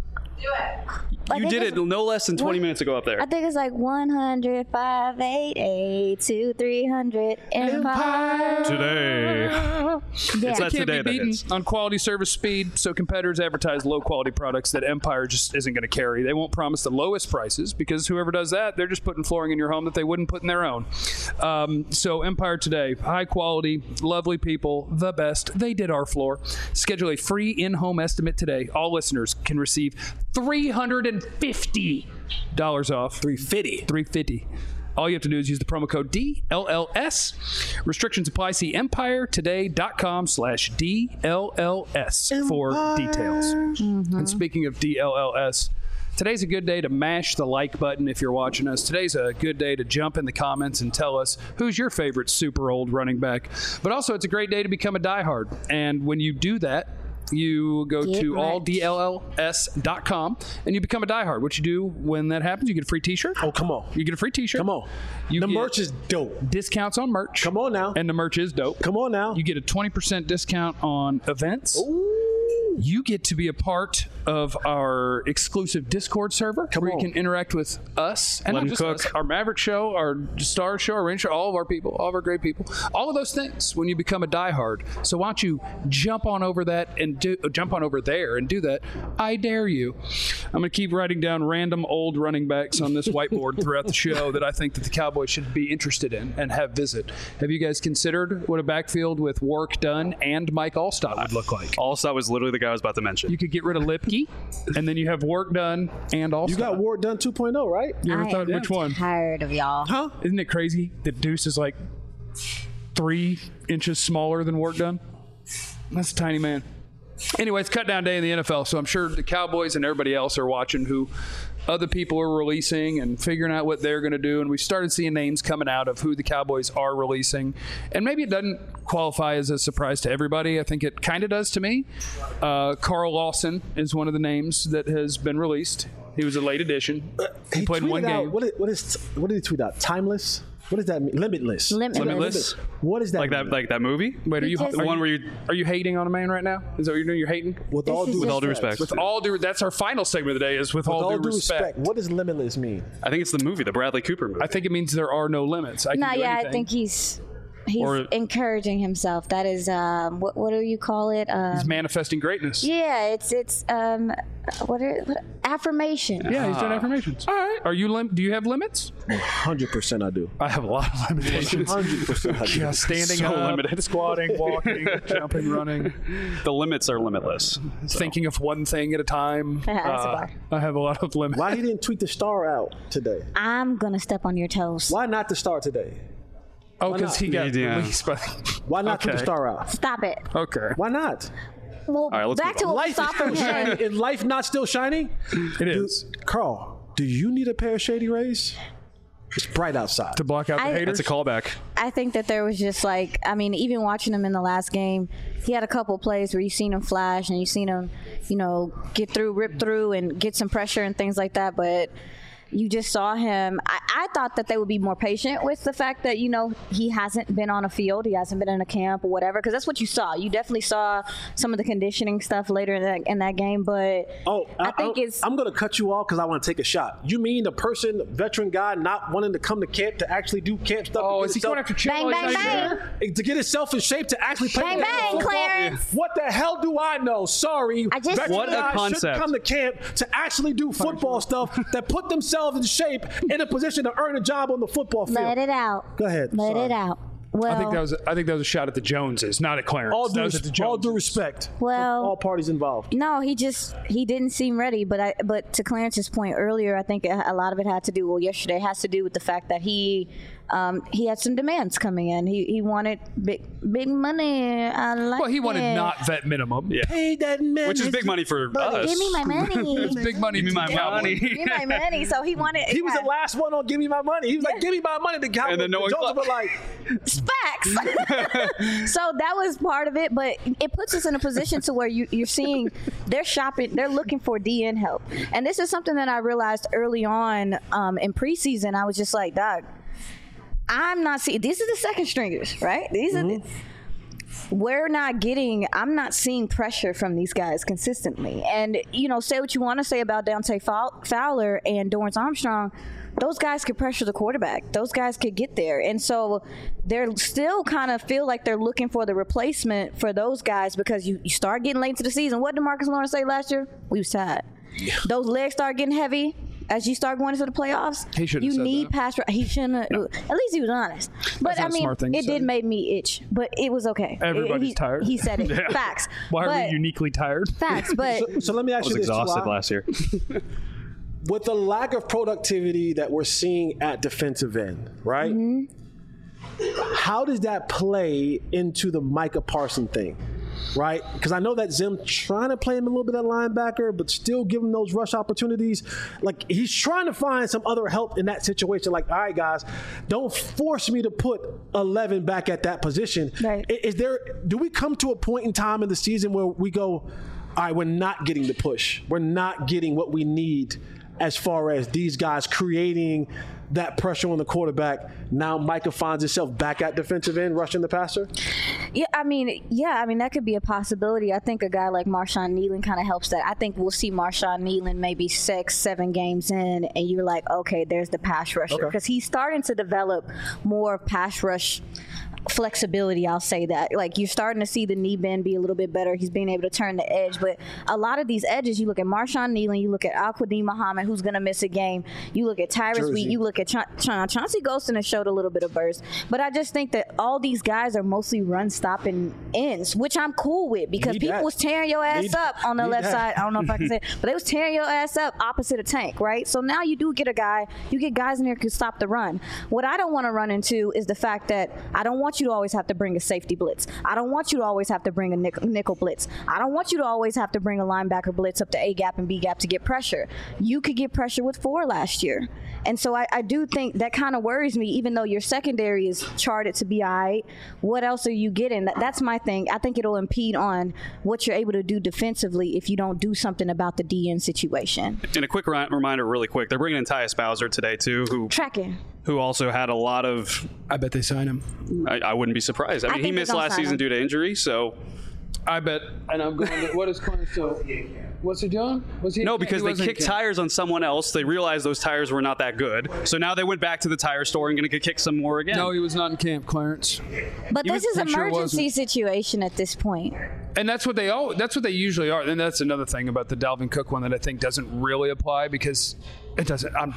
S5: I
S4: You
S5: think
S4: did
S5: it's-
S4: it no less than twenty
S5: what?
S4: minutes ago up there.
S5: I think it's like one hundred, five, eight, eight, two, three hundred, Empire.
S4: Today.
S5: Yeah.
S4: It's that
S1: Can't
S4: today
S1: be
S4: that
S1: beaten
S4: is.
S1: on quality, service, speed. So competitors advertise low quality products that Empire just isn't going to carry. They won't promise the lowest prices because whoever does that, they're just putting flooring in your home that they wouldn't put in their own. Um, so Empire today, high quality, lovely people, the best. They did our floor. Schedule a free in-home estimate today. All listeners can receive three hundred fifty dollars off.
S2: three fifty.
S1: three hundred fifty dollars. All you have to do is use the promo code D L L S. Restrictions apply. See empiretoday.com slash D L L S for details. And speaking of D L L S, today's a good day to mash the like button if you're watching us. Today's a good day to jump in the comments and tell us who's your favorite super old running back. But also, it's a great day to become a diehard. And when you do that, you go
S5: Get
S1: to
S5: merch.
S1: all D L L S dot com and you become a diehard. What you do when that happens, you get a free t-shirt.
S2: Oh, come on.
S1: You get a free t-shirt.
S2: Come on.
S1: You
S2: the
S1: get
S2: merch is dope.
S1: discounts on merch.
S2: Come on now.
S1: And the merch is dope.
S2: Come on now.
S1: You get a twenty percent discount on events. You get to be a part of our exclusive Discord server
S2: Come
S1: where
S2: on.
S1: you can interact with us and
S4: Let
S1: not
S4: 'em
S1: just
S4: cook.
S1: us, our Maverick show, our Star show, our Rain show, all of our people, all of our great people, all of those things when you become a diehard. So why don't you jump on over that and do jump on over there and do that? I dare you. I'm going to keep writing down random old running backs on this whiteboard throughout the show that I think that the Cowboys should be interested in and have visit. Have you guys considered what a backfield with Work done and Mike Allstott would look like?
S4: Allstott was literally the guy I was about to mention.
S1: You could get rid of Lipke, and then you have Work done and Allstott.
S2: You got Ward done two point oh, right?
S1: You ever
S5: I
S1: thought
S5: am
S1: which one?
S5: tired of y'all.
S2: Huh?
S1: Isn't it crazy that Deuce is like three inches smaller than Work done? That's a tiny man. Anyway, it's cut down day in the N F L, so I'm sure the Cowboys and everybody else are watching who other people are releasing and figuring out what they're going to do. And we started seeing names coming out of who the Cowboys are releasing. And maybe it doesn't qualify as a surprise to everybody. I think it kind of does to me. Uh, Carl Lawson is one of the names that has been released. He was a late addition. He, played in one
S2: tweeted out-
S1: game.
S2: What, is, what, is, what did he tweet out? Timeless? What does that mean? Limitless.
S5: Limitless.
S4: Limitless?
S2: What is that
S4: Like that,
S2: mean?
S4: like that movie.
S1: Wait, are
S5: He
S1: you,
S5: just-
S1: are
S4: The one
S1: you-
S4: where you,
S1: Are you hating on a man right now? Is that what you're doing? You're hating?
S2: with
S5: This
S2: all
S5: is
S2: due
S4: with all due
S2: respect.
S4: respect,
S1: With all due, that's our final segment of the day. Is with,
S2: With
S1: all,
S2: all
S1: due,
S2: due
S1: respect.
S2: respect. What does limitless mean?
S4: I think it's the movie, the Bradley Cooper movie.
S1: I think it means there are no limits. I can
S5: No,
S1: do
S5: yeah,
S1: anything.
S5: I think he's he's
S4: Or-
S5: encouraging himself. That is, um, what what do you call it? Um,
S1: he's manifesting greatness. Yeah,
S5: yeah, it's it's um, what are what, affirmation.
S1: he's doing affirmations. All right. Are you lim- Do you have limits?
S2: one hundred percent I do.
S1: I have a lot of limitations.
S2: one hundred percent I do.
S1: Yeah, standing
S4: So
S1: up,
S4: limited.
S1: squatting, walking, jumping, running,
S4: the limits are limitless.
S1: thinking of one thing at a time.
S5: Yeah, that's a
S1: Uh,
S5: bar.
S1: I have a lot of limits.
S2: Why he didn't tweet the star out today?
S5: I'm gonna step on your toes.
S2: Why not the star today?
S1: Oh,
S2: Why
S1: because
S2: not?
S1: he got
S4: Yeah.
S1: released by.
S2: Why not tweet the
S1: Okay.
S2: star out?
S5: Stop it.
S1: Okay,
S2: Why not?
S5: Well,
S4: right, let's
S5: back
S4: move
S5: to
S4: on.
S5: what we
S2: Life
S5: saw
S2: is
S5: from
S2: still
S5: him.
S2: shining. Is life not still shining?
S1: it is
S2: Carl, do you need a pair of shady rays? It's bright outside.
S1: to block out the
S5: I-
S1: haters.
S4: That's a callback.
S5: I think that there was just like, I mean, even watching him in the last game, he had a couple plays where you seen him flash and you seen him, you know, get through, rip through, and get some pressure and things like that. But You just saw him. I, I thought that they would be more patient with the fact that, you know, he hasn't been on a field. He hasn't been in a camp or whatever, because that's what you saw. You definitely saw some of the conditioning stuff later in that, in that game. But
S2: oh,
S5: I,
S2: I
S5: think
S2: I,
S5: it's.
S2: I'm going to cut you off because I want to take a shot. You mean the person, veteran guy, not wanting to come to camp to actually do camp stuff?
S1: Oh,
S2: to
S1: is he
S2: himself,
S1: going after Chip?
S5: Bang, bang, bang.
S2: to get himself in shape to actually play
S5: Bang,
S2: the
S5: bang,
S2: football?
S5: Clarence.
S2: What the hell do I know? Sorry.
S5: I just-
S2: Veteran
S4: What a
S2: guys
S4: concept.
S2: should come to camp to actually do football stuff that put themselves in shape in a position to earn a job on the football field.
S5: Let it out.
S2: Go ahead.
S5: Let
S2: Sorry.
S5: it out. Well,
S1: I think that was I think that was a shot at the Joneses, not at Clarence.
S2: All
S1: that
S2: due,
S1: was at the
S2: res- all due
S1: Joneses.
S2: respect.
S5: Well-
S2: from all parties involved.
S5: No, he just he didn't seem ready. But I but to Clarence's point earlier, I think a lot of it had to do well yesterday has to do with the fact that he um, he had some demands coming in. He he wanted big big money. I like
S1: Well, he wanted
S5: it.
S1: not vet minimum.
S4: Yeah.
S2: Pay that man.
S4: Which is big money for us.
S5: Give me my money.
S1: It's big money.
S4: Give me
S1: to
S4: my
S1: the Cowboys.
S4: money.
S5: Give me my money. So he wanted.
S2: He was
S5: yeah.
S2: the last one on Give Me My Money. He was like, give me my money. The Cowboys
S4: And then no one
S2: Jones
S4: clapped.
S2: were like,
S5: Facts. So that was part of it, but it puts us in a position to where you, you're seeing they're shopping, they're looking for D N help, and this is something that I realized early on um, in preseason. I was just like, Doc, I'm not seeing. These are the second stringers, right? These are. The, we're not getting. I'm not seeing pressure from these guys consistently, and you know, say what you want to say about Dante Fow- Fowler and Dorrance Armstrong. Those guys could pressure the quarterback. Those guys could get there. And so they're still kind of feel like they're looking for the replacement for those guys because you, you start getting late into the season. What did Marcus Lawrence say last year? We was tired. Yeah. Those legs start getting heavy as you start going into the playoffs.
S1: He shouldn't
S5: You
S1: have said
S5: need
S1: that.
S5: pass. He shouldn't. No. At least he was honest. But
S1: That's not
S5: I
S1: a
S5: mean,
S1: smart thing to
S5: it
S1: say.
S5: did make me itch. But it was okay.
S1: Everybody's
S5: he,
S1: tired.
S5: He said it.
S1: Yeah.
S5: Facts.
S1: Why are
S5: but,
S1: we uniquely tired?
S5: Facts. But
S2: so, so let me ask
S4: I was
S2: you this,
S4: exhausted
S2: T Y.
S4: last year.
S2: With the lack of productivity that we're seeing at defensive end, right? Mm-hmm. How does that play into the Micah Parsons thing, right? Because I know that Zim trying to play him a little bit at linebacker, but still give him those rush opportunities. Like, he's trying to find some other help in that situation. Like, all right, guys, don't force me to put eleven back at that position.
S5: Right.
S2: Is there? Do we come to a point in time in the season where we go, all right, we're not getting the push. We're not getting what we need as far as these guys creating that pressure on the quarterback. Now Micah finds himself back at defensive end, rushing the passer?
S5: Yeah, I mean, yeah, I mean, that could be a possibility. I think a guy like Marshawn Nealon kind of helps that. I think we'll see Marshawn Nealon maybe six, seven games in, and you're like, okay, there's the pass rusher. Because
S2: Okay.
S5: he's starting to develop more pass rush flexibility, I'll say that. Like, you're starting to see the knee bend be a little bit better. He's being able to turn the edge. But a lot of these edges, you look at Marshawn Nealon, you look at Al-Quadin Muhammad, who's going to miss a game. You look at Tyrus
S2: Jersey.
S5: Wheat, you look at Cha- Cha- Chauncey Golston has showed a little bit of burst. But I just think that all these guys are mostly run-stopping ends, which I'm cool with because
S2: Need
S5: people
S2: that.
S5: was tearing your ass
S2: Need-
S5: up on the
S2: need
S5: left
S2: that.
S5: side. I don't know if I can say it, but they was tearing your ass up opposite of Tank, right? So now you do get a guy, you get guys in there who can stop the run. What I don't want to run into is the fact that I don't want you to always have to bring a safety blitz. I don't want you to always have to bring a nickel, nickel blitz. I don't want you to always have to bring a linebacker blitz up to A gap and B gap to get pressure. You could get pressure with four last year. And so I, I do think that kind of worries me, even though your secondary is charted to be all right. What else are you getting? That, that's my thing. I think it'll impede on what you're able to do defensively if you don't do something about the D N situation.
S4: And a quick ri- reminder, really quick, they're bringing in Tyus Bowser today too, who
S5: Tracking.
S4: who also had a lot of.
S1: I bet they sign him.
S4: I, I wouldn't be surprised. I
S5: I
S4: mean, he
S5: think they're
S4: missed
S5: gonna
S4: last
S5: sign
S4: season
S5: him.
S4: due to injury, so
S1: I bet. And I'm going to, what is Clarence still? What's he doing? Was he?
S4: no,
S1: he
S4: because they
S1: wasn't in
S4: kicked
S1: camp.
S4: tires on someone else. They realized those tires were not that good, so now they went back to the tire store and going to kick some more again.
S1: No, he was not in camp, Clarence.
S5: But
S1: You
S5: this
S1: would-
S5: is
S1: I'm sure it
S5: emergency
S1: wasn't.
S5: situation at this point.
S1: And that's what they all. That's what they usually are. And that's another thing about the Dalvin Cook one that I think doesn't really apply because it doesn't. I'm,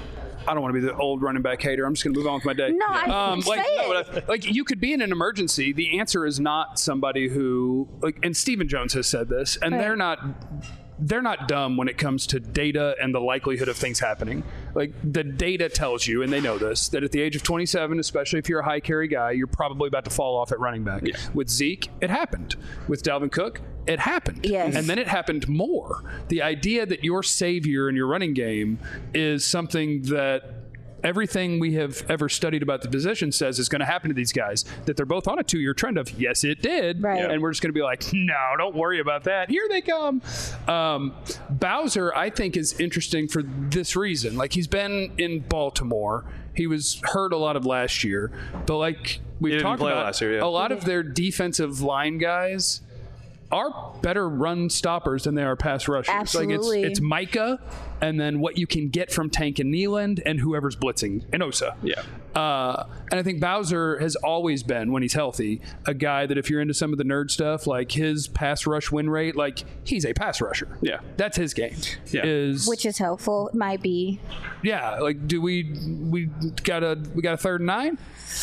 S1: I don't want to be the old running back hater. I'm just going to move on with my day.
S5: No, I
S1: um,
S5: say
S1: like,
S5: it.
S1: no, but I- like you could be in an emergency. The answer is not somebody who like. And Stephen Jones has said this, and
S5: Right.
S1: they're not. They're not dumb when it comes to data and the likelihood of things happening. Like the data tells you, and they know this, that at the age of twenty-seven, especially if you're a high carry guy, you're probably about to fall off at running back.
S4: Yeah.
S1: With Zeke, it happened. With Dalvin Cook, it happened.
S5: Yes.
S1: And then it happened more. The idea that your savior in your running game is something that everything we have ever studied about the position says is going to happen to these guys, that they're both on a two-year trend of, yes, it did.
S5: Right.
S1: And we're just going to be like, no, don't worry about that. Here they come. Um, Bowser, I think, is interesting for this reason. Like, he's been in Baltimore. He was hurt a lot of last year. But like we've
S4: He didn't
S1: talked
S4: play
S1: about,
S4: last year, yeah.
S1: a lot of their defensive line guys are better run stoppers than they are pass rushers.
S5: Absolutely.
S1: Like it's, it's Micah, and then what you can get from Tank and Nealand, and whoever's blitzing, and Osa.
S4: Yeah.
S1: Uh, and I think Bowser has always been, when he's healthy, a guy that if you're into some of the nerd stuff, like his pass rush win rate, like he's a pass rusher.
S4: Yeah.
S1: That's his game.
S4: Yeah.
S1: Is
S5: Which is helpful. Might be.
S1: yeah. Like, do we we got a we got a third and nine?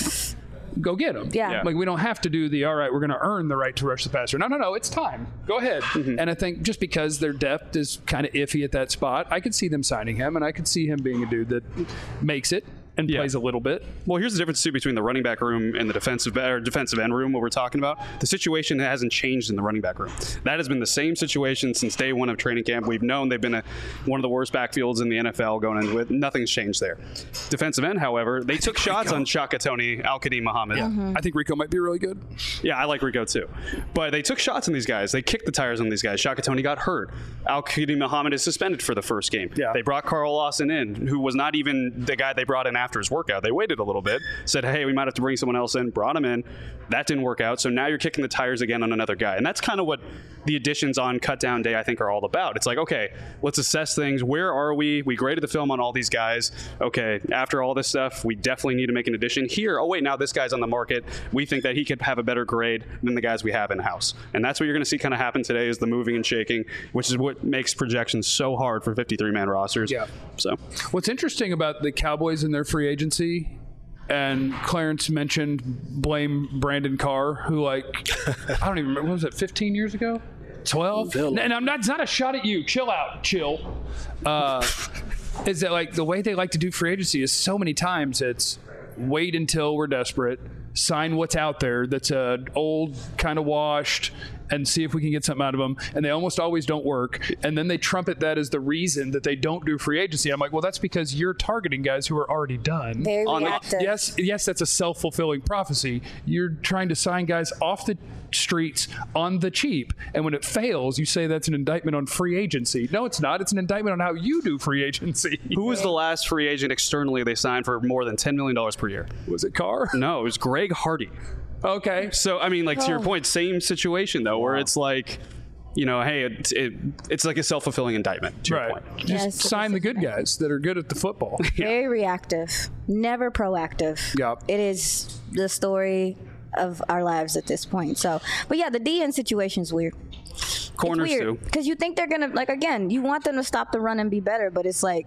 S1: Go get him.
S5: Yeah. Yeah.
S1: Like, we don't have to do the, all right, we're going to earn the right to rush the passer. No, no, no, it's time. Go ahead.
S4: Mm-hmm.
S1: And I think just because their depth is kind of iffy at that spot, I could see them signing him, and I could see him being a dude that makes it and
S4: Yeah.
S1: plays a little bit.
S4: Well, here's the difference too between the running back room and the defensive or defensive end room. What we're talking about, the situation hasn't changed in the running back room. That has been the same situation since day one of training camp. We've known they've been a, one of the worst backfields in the N F L going into it. Nothing's changed there. Defensive end, however, they took shots on Shaka Tony, Al-Qadim Muhammad.
S5: Mm-hmm.
S1: I think Rico might be really good.
S4: Yeah, I like Rico too. But they took shots on these guys. They kicked the tires on these guys. Shaka Tony got hurt. Al-Qadim Muhammad is suspended for the first game.
S1: Yeah.
S4: They brought Carl Lawson in, who was not even the guy they brought in after his workout. They waited a little bit, said, hey, we might have to bring someone else in, brought him in. That didn't work out. So now you're kicking the tires again on another guy. And that's kind of what the additions on cut down day, I think, are all about. It's like, okay, let's assess things. Where are we? We graded the film on all these guys. Okay, after all this stuff, we definitely need to make an addition here. Oh, wait, now this guy's on the market. We think that he could have a better grade than the guys we have in-house. And that's what you're going to see kind of happen today is the moving and shaking, which is what makes projections so hard for fifty-three man rosters.
S1: Yeah.
S4: So
S1: What's interesting about the Cowboys and their free agency, and Clarence mentioned blame Brandon Carr, who, like, I don't even remember, what was it, fifteen years ago? twelve? And I'm not, it's not a shot at you. Chill out. Chill. Uh, is that, like, the way they like to do free agency is so many times it's wait until we're desperate, sign what's out there that's uh, old, kind of washed, and see if we can get something out of them. And they almost always don't work. And then they trumpet that as the reason that they don't do free agency. I'm like, well, that's because you're targeting guys who are already done.
S5: Very
S4: On the-
S5: reactive.
S1: Yes, yes, that's a self-fulfilling prophecy. You're trying to sign guys off the streets on the cheap, and when it fails, you say that's an indictment on free agency. No, it's not. It's an indictment on how you do free agency.
S4: who was the last free agent externally they signed for more than ten million dollars per year?
S1: Was it Carr?
S4: No, it was Greg Hardy.
S1: Okay.
S4: So, I mean, like, to your
S5: Oh.
S4: point, same situation, though, where it's like, you know, hey, it, it, it's like a self-fulfilling indictment, to your
S1: Right.
S4: point.
S1: Just
S5: Yes, it
S1: sign
S5: is
S1: the
S5: a
S1: good
S5: indictment.
S1: guys that are good at the football.
S5: Very reactive. Never proactive.
S1: Yep.
S5: It is the story of our lives at this point. So, but yeah, the D N situation is weird.
S4: Corners,
S5: it's
S4: too.
S5: weird because you think they're gonna, like, again, you want them to stop the run and be better, but it's like,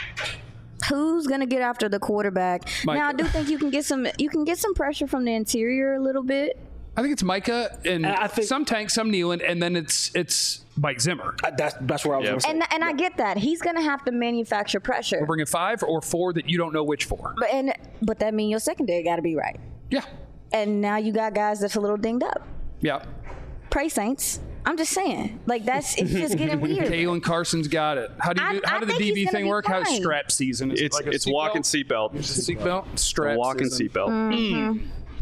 S5: who's gonna get after the quarterback?
S1: Micah.
S5: Now, I do think you can get some, you can get some pressure from the interior a little bit.
S1: I think it's Micah and
S2: I think-
S1: some Tank, some Nealand, and then it's it's Mike Zimmer.
S2: I- That's that's where I was
S4: Yeah.
S2: going to say.
S5: And and I get that he's gonna have to manufacture pressure.
S1: We're bringing five or four that you don't know which for.
S5: But and but that means your secondary got to be right.
S1: Yeah.
S5: And now you got guys that's a little dinged up.
S1: Yeah.
S5: Pray Saints. I'm just saying, like, that's it's just getting weird.
S1: Kalen Carson's got it. How do you
S5: I-
S1: do, how
S5: I
S1: did the
S5: think
S1: D
S5: he's
S1: B
S5: gonna
S1: thing
S5: be
S1: work? How's
S5: fine.
S1: strap season? Is it
S4: It's
S1: like a
S4: it's
S1: seatbelt?
S4: walking seatbelt.
S1: Seatbelt? Strap
S4: Walking
S1: season.
S4: seatbelt.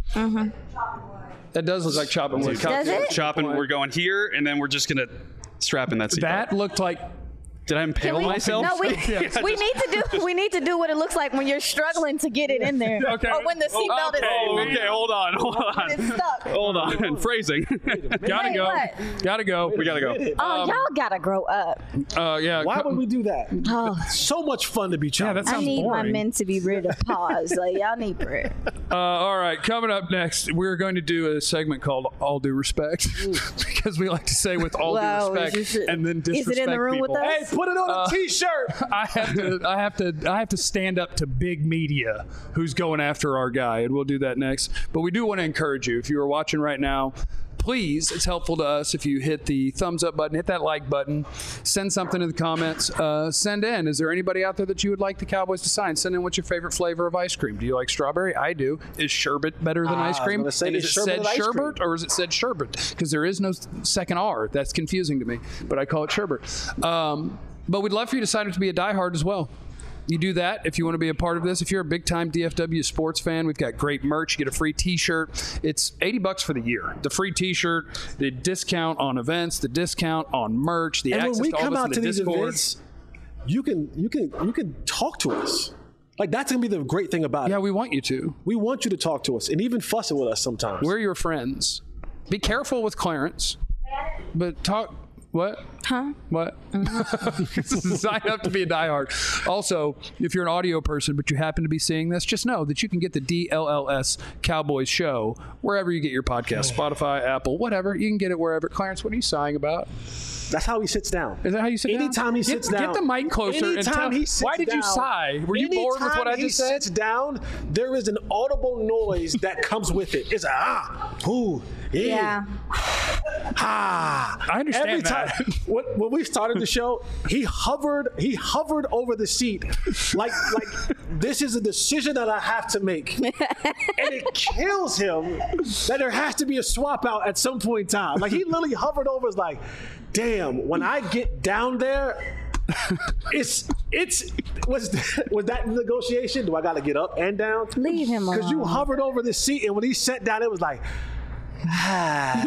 S1: That does look like chopping wood.
S5: Does it?
S4: Chopping, we're going here, and then we're just going to strap in that seatbelt.
S1: That looked like
S4: Did I impale
S5: We-
S4: myself?
S5: No, we, we need to do we need to do what it looks like when you're struggling to get it in there,
S1: Okay.
S5: or when the seatbelt
S4: Okay,
S5: is
S4: okay, hold on, hold on.
S5: when it's stuck.
S4: Hold on. Phrasing.
S1: gotta
S5: Wait,
S1: go.
S5: what?
S1: Gotta go.
S4: we got to go.
S5: Oh, y'all gotta grow up.
S1: Uh, yeah.
S2: Why
S1: co-
S2: would we do that?
S5: Oh,
S2: So much fun to be
S1: Yeah,
S2: chopped.
S1: that
S5: I
S1: sounds
S5: need my
S1: boring.
S5: men to be ready to pause. Like, y'all need bread.
S1: Uh, all right, coming up next, we're going to do a segment called "All Due Respect" because we like to say "with all
S5: Wow,
S1: due respect"
S5: is it-
S1: and then
S5: is it in the
S1: disrespect
S5: room with
S1: people.
S5: us?
S2: Hey, put it on
S1: Uh,
S2: a T-shirt.
S1: I have to, I have to, I have to stand up to big media who's going after our guy, and we'll do that next. But we do want to encourage you, if you are watching right now, please, it's helpful to us if you hit the thumbs up button, hit that like button, send something in the comments, uh, send in. Is there anybody out there that you would like the Cowboys to sign? Send in what's your favorite flavor of ice cream. Do you like strawberry? I do. Is sherbet better than
S2: Ah,
S1: ice
S2: I was
S1: cream?
S2: gonna say,
S1: and is
S2: is
S1: it
S2: sherbet
S1: said
S2: with ice cream?
S1: sherbet or is it said sherbet? Because there is no second R. That's confusing to me, but I call it sherbet. Um, but we'd love for you to sign up to be a diehard as well. You do that if you want to be a part of this. If you're a big-time D F W sports fan, we've got great merch. You get a free T-shirt. It's eighty bucks for the year. The free T-shirt, the discount on events, the discount on merch, the
S2: And
S1: access
S2: when we
S1: to all
S2: come
S1: this in
S2: out
S1: the
S2: to these
S1: Discord.
S2: events, you can you can you can talk to us. Like that's gonna be the great thing about
S1: Yeah,
S2: it.
S1: we want you to.
S2: We want you to talk to us and even fussing with us sometimes.
S1: We're your friends. Be careful with Clarence, but talk. What?
S5: Huh?
S1: What? Sign up to be a diehard. Also, if you're an audio person but you happen to be seeing this, just know that you can get the D L L S Cowboys show wherever you get your podcast. Spotify, Apple, whatever. You can get it wherever. Clarence, what are you sighing about?
S2: That's how he sits down.
S1: Is that how you sit
S2: Anytime
S1: down?
S2: he sits
S1: get,
S2: down.
S1: Get the mic closer and
S2: anytime
S1: tell.
S2: he sits
S1: Why did you
S2: down-
S1: sigh? Were you bored with what I
S2: anytime he
S1: just said?
S2: sits down, there is an audible noise that comes with it. It's a ah, ooh, yeah.
S5: Yeah.
S2: Ah.
S1: I understand
S2: Every
S1: that.
S2: time when, when we started the show, he hovered he hovered over the seat like like this is a decision that I have to make. And it kills him that there has to be a swap out at some point in time. Like he literally hovered over is like, damn, when I get down there, it's it's was was that negotiation? Do I gotta get up and down?
S5: Leave him alone.
S2: Because you hovered over the seat, and when he sat down, it was like, ah.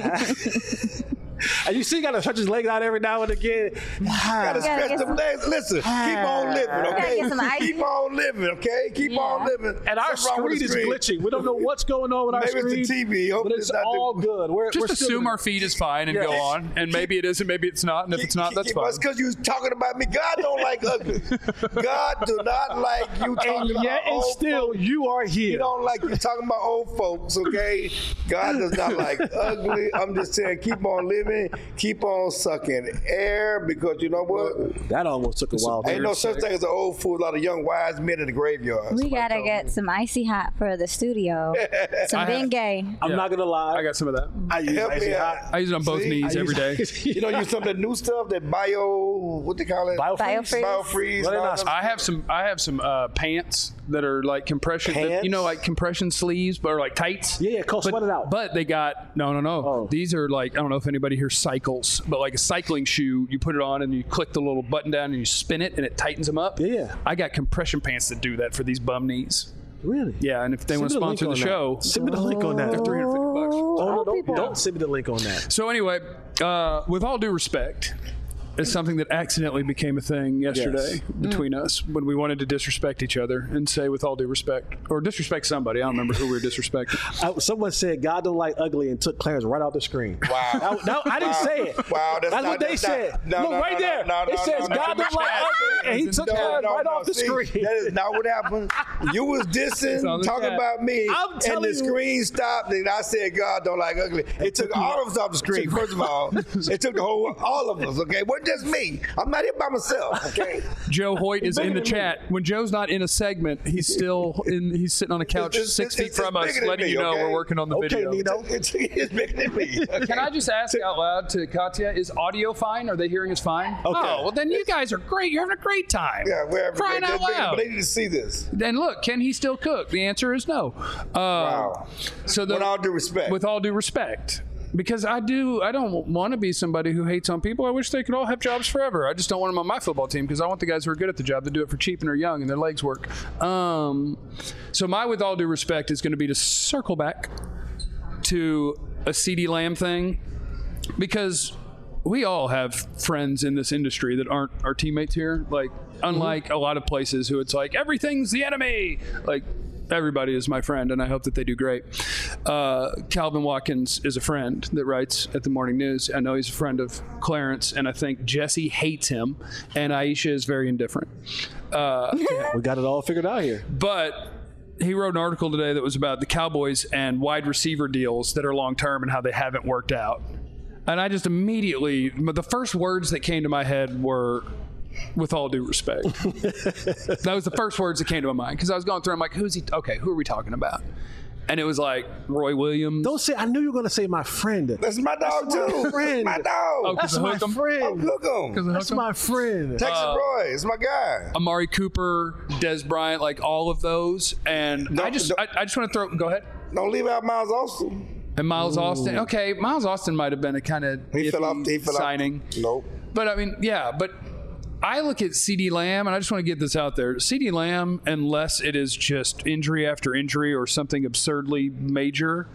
S2: And you see, he got to stretch his legs out every now and again.
S3: Gotta stretch
S5: get
S3: them
S5: some-
S3: legs. Listen, keep on living, okay?
S5: get some ice.
S3: Keep on living, okay? Keep
S5: Yeah.
S3: on living.
S2: And our
S3: Something wrong with
S2: screen
S3: the
S2: is glitching. We don't know what's going on with our
S3: Maybe
S2: screen.
S3: it's the T V.
S2: But
S3: Hopefully
S2: it's
S3: it's not
S2: all
S3: the-
S2: good. We're,
S1: Just
S2: we're still
S1: assume
S2: gonna-
S1: our feed is fine and
S2: Yeah.
S1: go on. And maybe it is and maybe it's not. And if it's not, that's fine.
S3: It's because you was talking about me. God don't like ugly. God do not like you talking
S2: And
S3: about
S2: yet and
S3: old
S2: still,
S3: folks.
S2: you are
S3: He
S2: here.
S3: don't like you talking about old folks, okay? God does not like ugly. I'm just saying, keep on living, keep on sucking air, because you know what?
S2: That almost took a while.
S3: Ain't no such thing as an old fool. A lot of young wise men in the graveyard.
S5: We gotta get some icy hot for the studio. Some
S1: I have-
S5: Bengay.
S2: I'm not gonna lie.
S1: I got some of that.
S2: I use
S3: Help
S2: icy
S3: me
S2: hot.
S3: out.
S1: I use it on both
S3: See?
S1: knees
S2: I
S1: every day.
S2: use-
S3: You know, use some of that new stuff, that bio, what they call it?
S2: Biofreeze?
S5: Biofreeze.
S3: Biofreeze.
S2: What
S3: and
S2: are
S3: all
S2: they
S3: them-
S1: I have some. I have some uh, pants that are like compression. that-
S2: Pants?
S1: you know, like compression sleeves, but are like tights.
S2: Yeah, yeah, Cole,
S1: but,
S2: sweat it out.
S1: But they got no, no, no.
S2: Oh.
S1: These are like I don't know if anybody here cycles, but like a cycling shoe. You put it on and you click the little button down and you spin it and it tightens them up.
S2: Yeah.
S1: I got compression pants that do that for these bum knees.
S2: Really?
S1: Yeah, and if they
S2: Send
S1: want to
S2: me the link
S1: sponsor the
S2: on
S1: show,
S2: that. Send me the link on that.
S1: they're three hundred fifty bucks.
S2: Oh, no,
S5: Old
S2: don't,
S5: people.
S2: don't send me the link on that.
S1: So anyway, uh, with all due respect, it's something that accidentally became a thing yesterday
S2: Yes.
S1: between us when we wanted to disrespect each other and say with all due respect, or disrespect somebody. I don't remember who we were disrespecting.
S2: I, someone said God don't like ugly and took Clarence right off the screen.
S3: Wow.
S2: I, no, I didn't
S3: Wow.
S2: say it.
S3: Wow, that's
S2: what
S3: not-
S2: they
S3: that's
S2: said.
S3: not- no,
S2: Look
S3: no,
S2: right
S3: no,
S2: there.
S3: no, no,
S2: it
S3: no,
S2: says
S3: no,
S2: God
S3: no,
S2: don't
S3: no,
S2: like
S3: no,
S2: ugly, and he
S1: no,
S2: took
S1: no,
S2: Clarence
S3: No,
S2: right
S3: no,
S2: off the
S3: see,
S2: screen.
S3: That is not what happened. You was dissing,
S1: on the
S3: talking
S1: chat.
S3: about me,
S2: I'm
S3: and
S2: telling
S3: the
S2: you.
S3: screen stopped, and I said, God don't like ugly. It took all of us off the screen, first of all. It took the whole, all of us, okay? It wasn't just me. I'm not here by myself, okay?
S1: Joe Hoyt is in the
S3: bigger than
S1: chat. When Joe's not in a segment, he's still in. He's sitting on a couch
S3: It's-
S1: six
S3: it's-
S1: feet
S3: it's
S1: from us,
S3: bigger than
S1: letting
S3: me,
S1: you know
S3: okay?
S1: we're working on the
S2: Okay,
S1: video.
S2: Nino.
S3: It's, it's bigger than me. Okay?
S1: Can I just ask out loud to Katya, is audio fine? Are they hearing us fine?
S2: Okay.
S1: Oh, well then you guys are great. You're having a great time.
S3: Yeah, wherever.
S1: Crying
S3: they,
S1: out
S3: they,
S1: loud.
S3: But they need to see this.
S1: Then look, can he still cook? The answer is no. Uh,
S3: Wow.
S1: So the,
S3: With all due respect.
S1: with all due respect, because I do, I don't want to be somebody who hates on people. I wish they could all have jobs forever. I just don't want them on my football team because I want the guys who are good at the job to do it for cheap and are young and their legs work. Um, so my with all due respect is going to be to circle back to a CeeDee Lamb thing because we all have friends in this industry that aren't our teammates here. Like, unlike a lot of places who it's like, everything's the enemy. Like, everybody is my friend, and I hope that they do great. Uh, Calvin Watkins is a friend that writes at the Morning News. I know he's a friend of Clarence, and I think Jesse hates him, and Aisha is very indifferent. Uh,
S2: We got it all figured out here.
S1: but he wrote an article today that was about the Cowboys and wide receiver deals that are long-term and how they haven't worked out. And I just immediately, the first words that came to my head were, with all due respect. That was the first words that came to my mind because I was going through, I'm like, who's he? Okay, who are we talking about? And it was like Roy Williams.
S2: Don't say. I knew you were going to say my friend.
S3: That's my dog,
S2: That's my
S3: too.
S2: friend.
S3: My dog.
S1: Oh,
S2: That's
S1: of
S2: my
S1: Hook 'em?
S3: Oh,
S2: friend.
S3: look 'em.
S2: That's my friend.
S3: Texas
S1: Uh,
S3: Roy. It's my guy.
S1: Amari Cooper, Des Bryant, like all of those. And I
S3: Don't-
S1: just,
S3: don't-
S1: I, I just want to throw. Go ahead.
S3: Don't leave out Miles Austin.
S1: And Miles Austin. Okay, Miles Austin might have been a kind of
S3: He fell off. He fell
S1: signing.
S3: off. Nope.
S1: But I mean, yeah, but I look at CeeDee Lamb, and I just want to get this out there. CeeDee Lamb, unless it is just injury after injury or something absurdly major,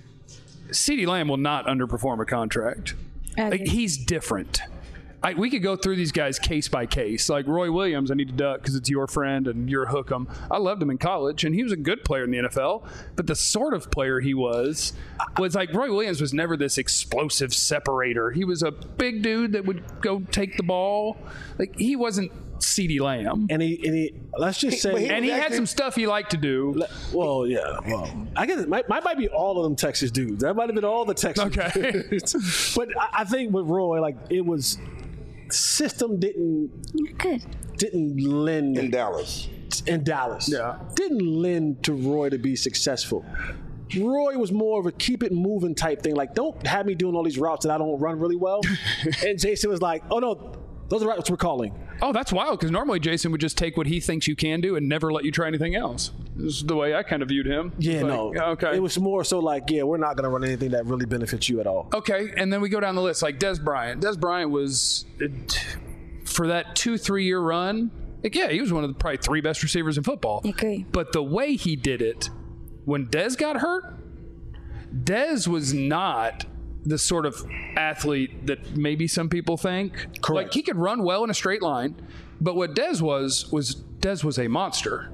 S1: CeeDee Lamb will not underperform a contract. Like, he's different. I, we could go through these guys case by case. Like Roy Williams, I need to duck because it's your friend and you're a hook 'em. I loved him in college, and he was a good player in the N F L. But the sort of player he was was like Roy Williams was never this explosive separator. He was a big dude that would go take the ball. Like, he wasn't CeeDee Lamb.
S2: And he, and he let's just say,
S3: He,
S1: And he
S3: actually,
S1: had some stuff he liked to do.
S2: well, yeah, well, I guess it might, might might be all of them Texas dudes. That might have been all the Texas
S1: Okay.
S2: dudes. But I, I think with Roy, like, it was system didn't
S5: Good.
S2: didn't lend
S3: in Dallas.
S2: in Dallas.
S1: Yeah.
S2: Didn't lend to Roy to be successful. Roy was more of a keep it moving type thing. Like, don't have me doing all these routes that I don't run really well. And Jason was like, oh no, those are routes we're calling.
S1: Oh, that's wild, because normally Jason would just take what he thinks you can do and never let you try anything else. This is the way I kind of viewed him.
S2: Yeah,
S1: Like,
S2: no.
S1: Okay.
S2: It was more so like, yeah, we're not going to run anything that really benefits you at all.
S1: Okay, and then we go down the list, like Des Bryant. Des Bryant was, for that two, three-year run, like, yeah, he was one of the probably three best receivers in football.
S5: Agree.
S1: But the way he did it, when Des got hurt, Des was not the sort of athlete that maybe some people think.
S2: Correct.
S1: Like, he could run well in a straight line, but what Des was, was Des was a monster.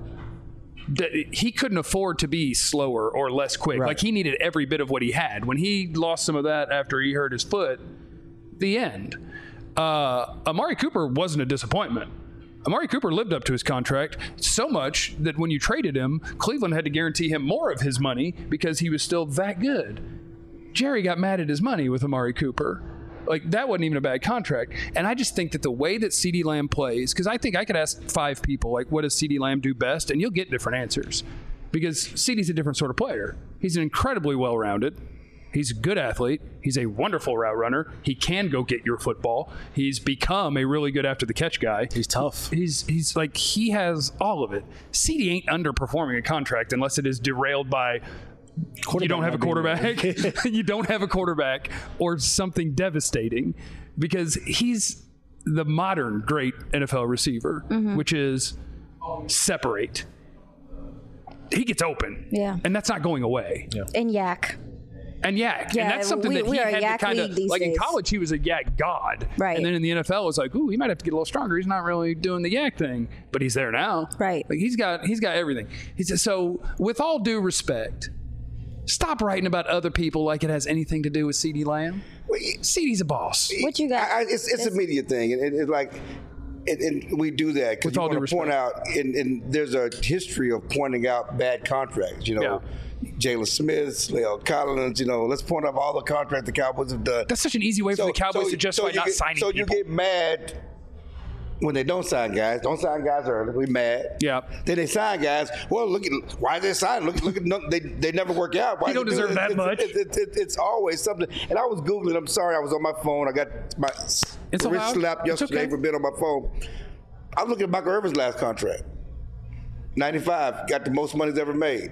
S1: De- he couldn't afford to be slower or less quick.
S2: Right.
S1: Like, he needed every bit of what he had. When he lost some of that after he hurt his foot, the end. Uh, Amari Cooper wasn't a disappointment. Amari Cooper lived up to his contract so much that when you traded him, Cleveland had to guarantee him more of his money because he was still that good. Jerry got mad at his money with Amari Cooper. Like, that wasn't even a bad contract. And I just think that the way that CeeDee Lamb plays, because I think I could ask five people, like, what does CeeDee Lamb do best? And you'll get different answers. Because CeeDee's a different sort of player. He's an incredibly well-rounded. He's a good athlete. He's a wonderful route runner. He can go get your football. He's become a really good after-the-catch guy.
S2: He's tough.
S1: He's he's like, he has all of it. CeeDee ain't underperforming a contract unless it is derailed by you don't have a quarterback, you don't have a quarterback, or something devastating, because he's the modern great N F L receiver, mm-hmm. which is separate. He gets open,
S5: Yeah.
S1: and that's not going away.
S2: Yeah.
S5: And Yak.
S1: And yak,
S5: Yeah,
S1: and that's something
S5: we-
S1: that he
S5: we are a
S1: had
S5: yak
S1: to kind
S5: league
S1: of
S5: these
S1: like in
S5: days.
S1: college. He was a yak god,
S5: Right.
S1: And then in the N F L, it was like, ooh, he might have to get a little stronger. He's not really doing the yak thing, but he's there now,
S5: Right.
S1: Like, he's got he's got everything. He's so, with all due respect, stop writing about other people like it has anything to do with CeeDee Lamb. CeeDee's a boss.
S5: What you got?
S3: I, I, it's it's a media thing, and it, it's like, and, and we do that because
S1: With
S3: you
S1: all due
S3: want to point
S1: respect.
S3: out, and, and there's a history of pointing out bad contracts. You know, Jalen Smith, Leo Collins. You know, let's point out all the contracts the Cowboys have done.
S1: That's such an easy way for the Cowboys to justify
S3: you
S1: not
S3: get,
S1: signing
S3: So
S1: people.
S3: you get mad when they don't sign guys. Don't sign guys early. We mad.
S1: Yeah.
S3: Then they sign guys. Well, look at why they sign. Look, look at no, they. They never work out. Why
S1: He don't
S3: they do
S1: deserve
S3: it?
S1: that
S3: it's,
S1: much.
S3: It's, it's, it's, it's always something. And I was googling. I'm sorry. I was on my phone. I got my
S1: It's
S3: wrist
S1: allowed.
S3: slapped
S1: It's
S3: yesterday
S1: okay.
S3: for being on my phone. I was looking at Michael Irvin's last contract. ninety-five, got the most money he's ever made.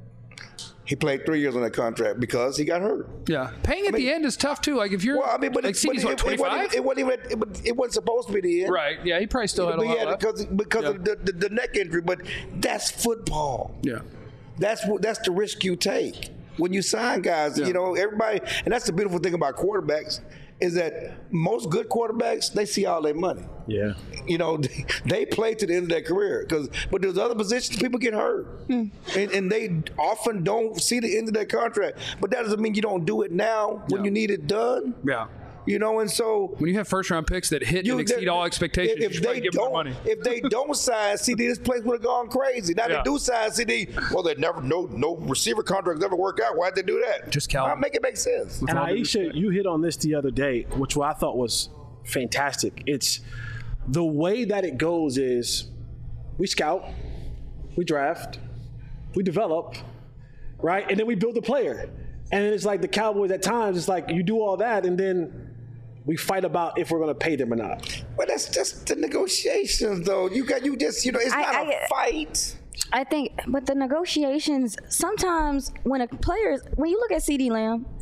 S3: He played three years on that contract because he got hurt.
S1: Yeah, paying at
S3: I mean-
S1: the end is tough too. Like, if you're
S3: Well, I mean, but,
S1: like
S3: it, but
S1: CeeDee's
S3: it,
S1: what
S3: it, wasn't
S1: twenty-five,
S3: even, it wasn't even it, was- it wasn't supposed to be the end.
S1: right? Yeah, he probably still had a
S3: But
S1: lot
S3: yeah,
S1: left.
S3: because because
S1: Yeah.
S3: of the, the, the neck injury. But that's football.
S1: Yeah.
S3: That's what that's the risk you take when you sign guys.
S1: Yeah.
S3: You know, everybody, and that's the beautiful thing about quarterbacks is that most good quarterbacks, they see all their money.
S2: Yeah.
S3: You know, they, they play to the end of their career. Because, but there's other positions people get hurt, and, and they often don't see the end of their contract. But that doesn't mean you don't do it now when
S1: Yeah.
S3: you need it done.
S1: Yeah.
S3: You know, and so
S1: When you have first round picks that hit
S3: you,
S1: and exceed all expectations,
S3: If,
S1: you
S3: if
S1: should probably
S3: they
S1: give them
S3: don't,
S1: more money.
S3: if they don't sign C D, this place would have gone crazy. Now
S1: Yeah.
S3: they do sign C D. Well, they never no no receiver contracts never work out. Why'd they do that?
S1: Just Calvin.
S3: I'll make it make sense.
S2: And
S1: all due
S2: Aisha, you hit on this the other day, which I thought was fantastic. It's the way that it goes is we scout, we draft, we develop, right? And then we build a player. And then it's like the Cowboys at times, it's like you do all that and then we fight about if we're going to pay them or not.
S3: But that's just the negotiations, though. You got you just you know it's
S5: I-
S3: not a
S5: I-
S3: fight.
S5: I think, but the negotiations, sometimes when a player, when you look at CeeDee Lamb,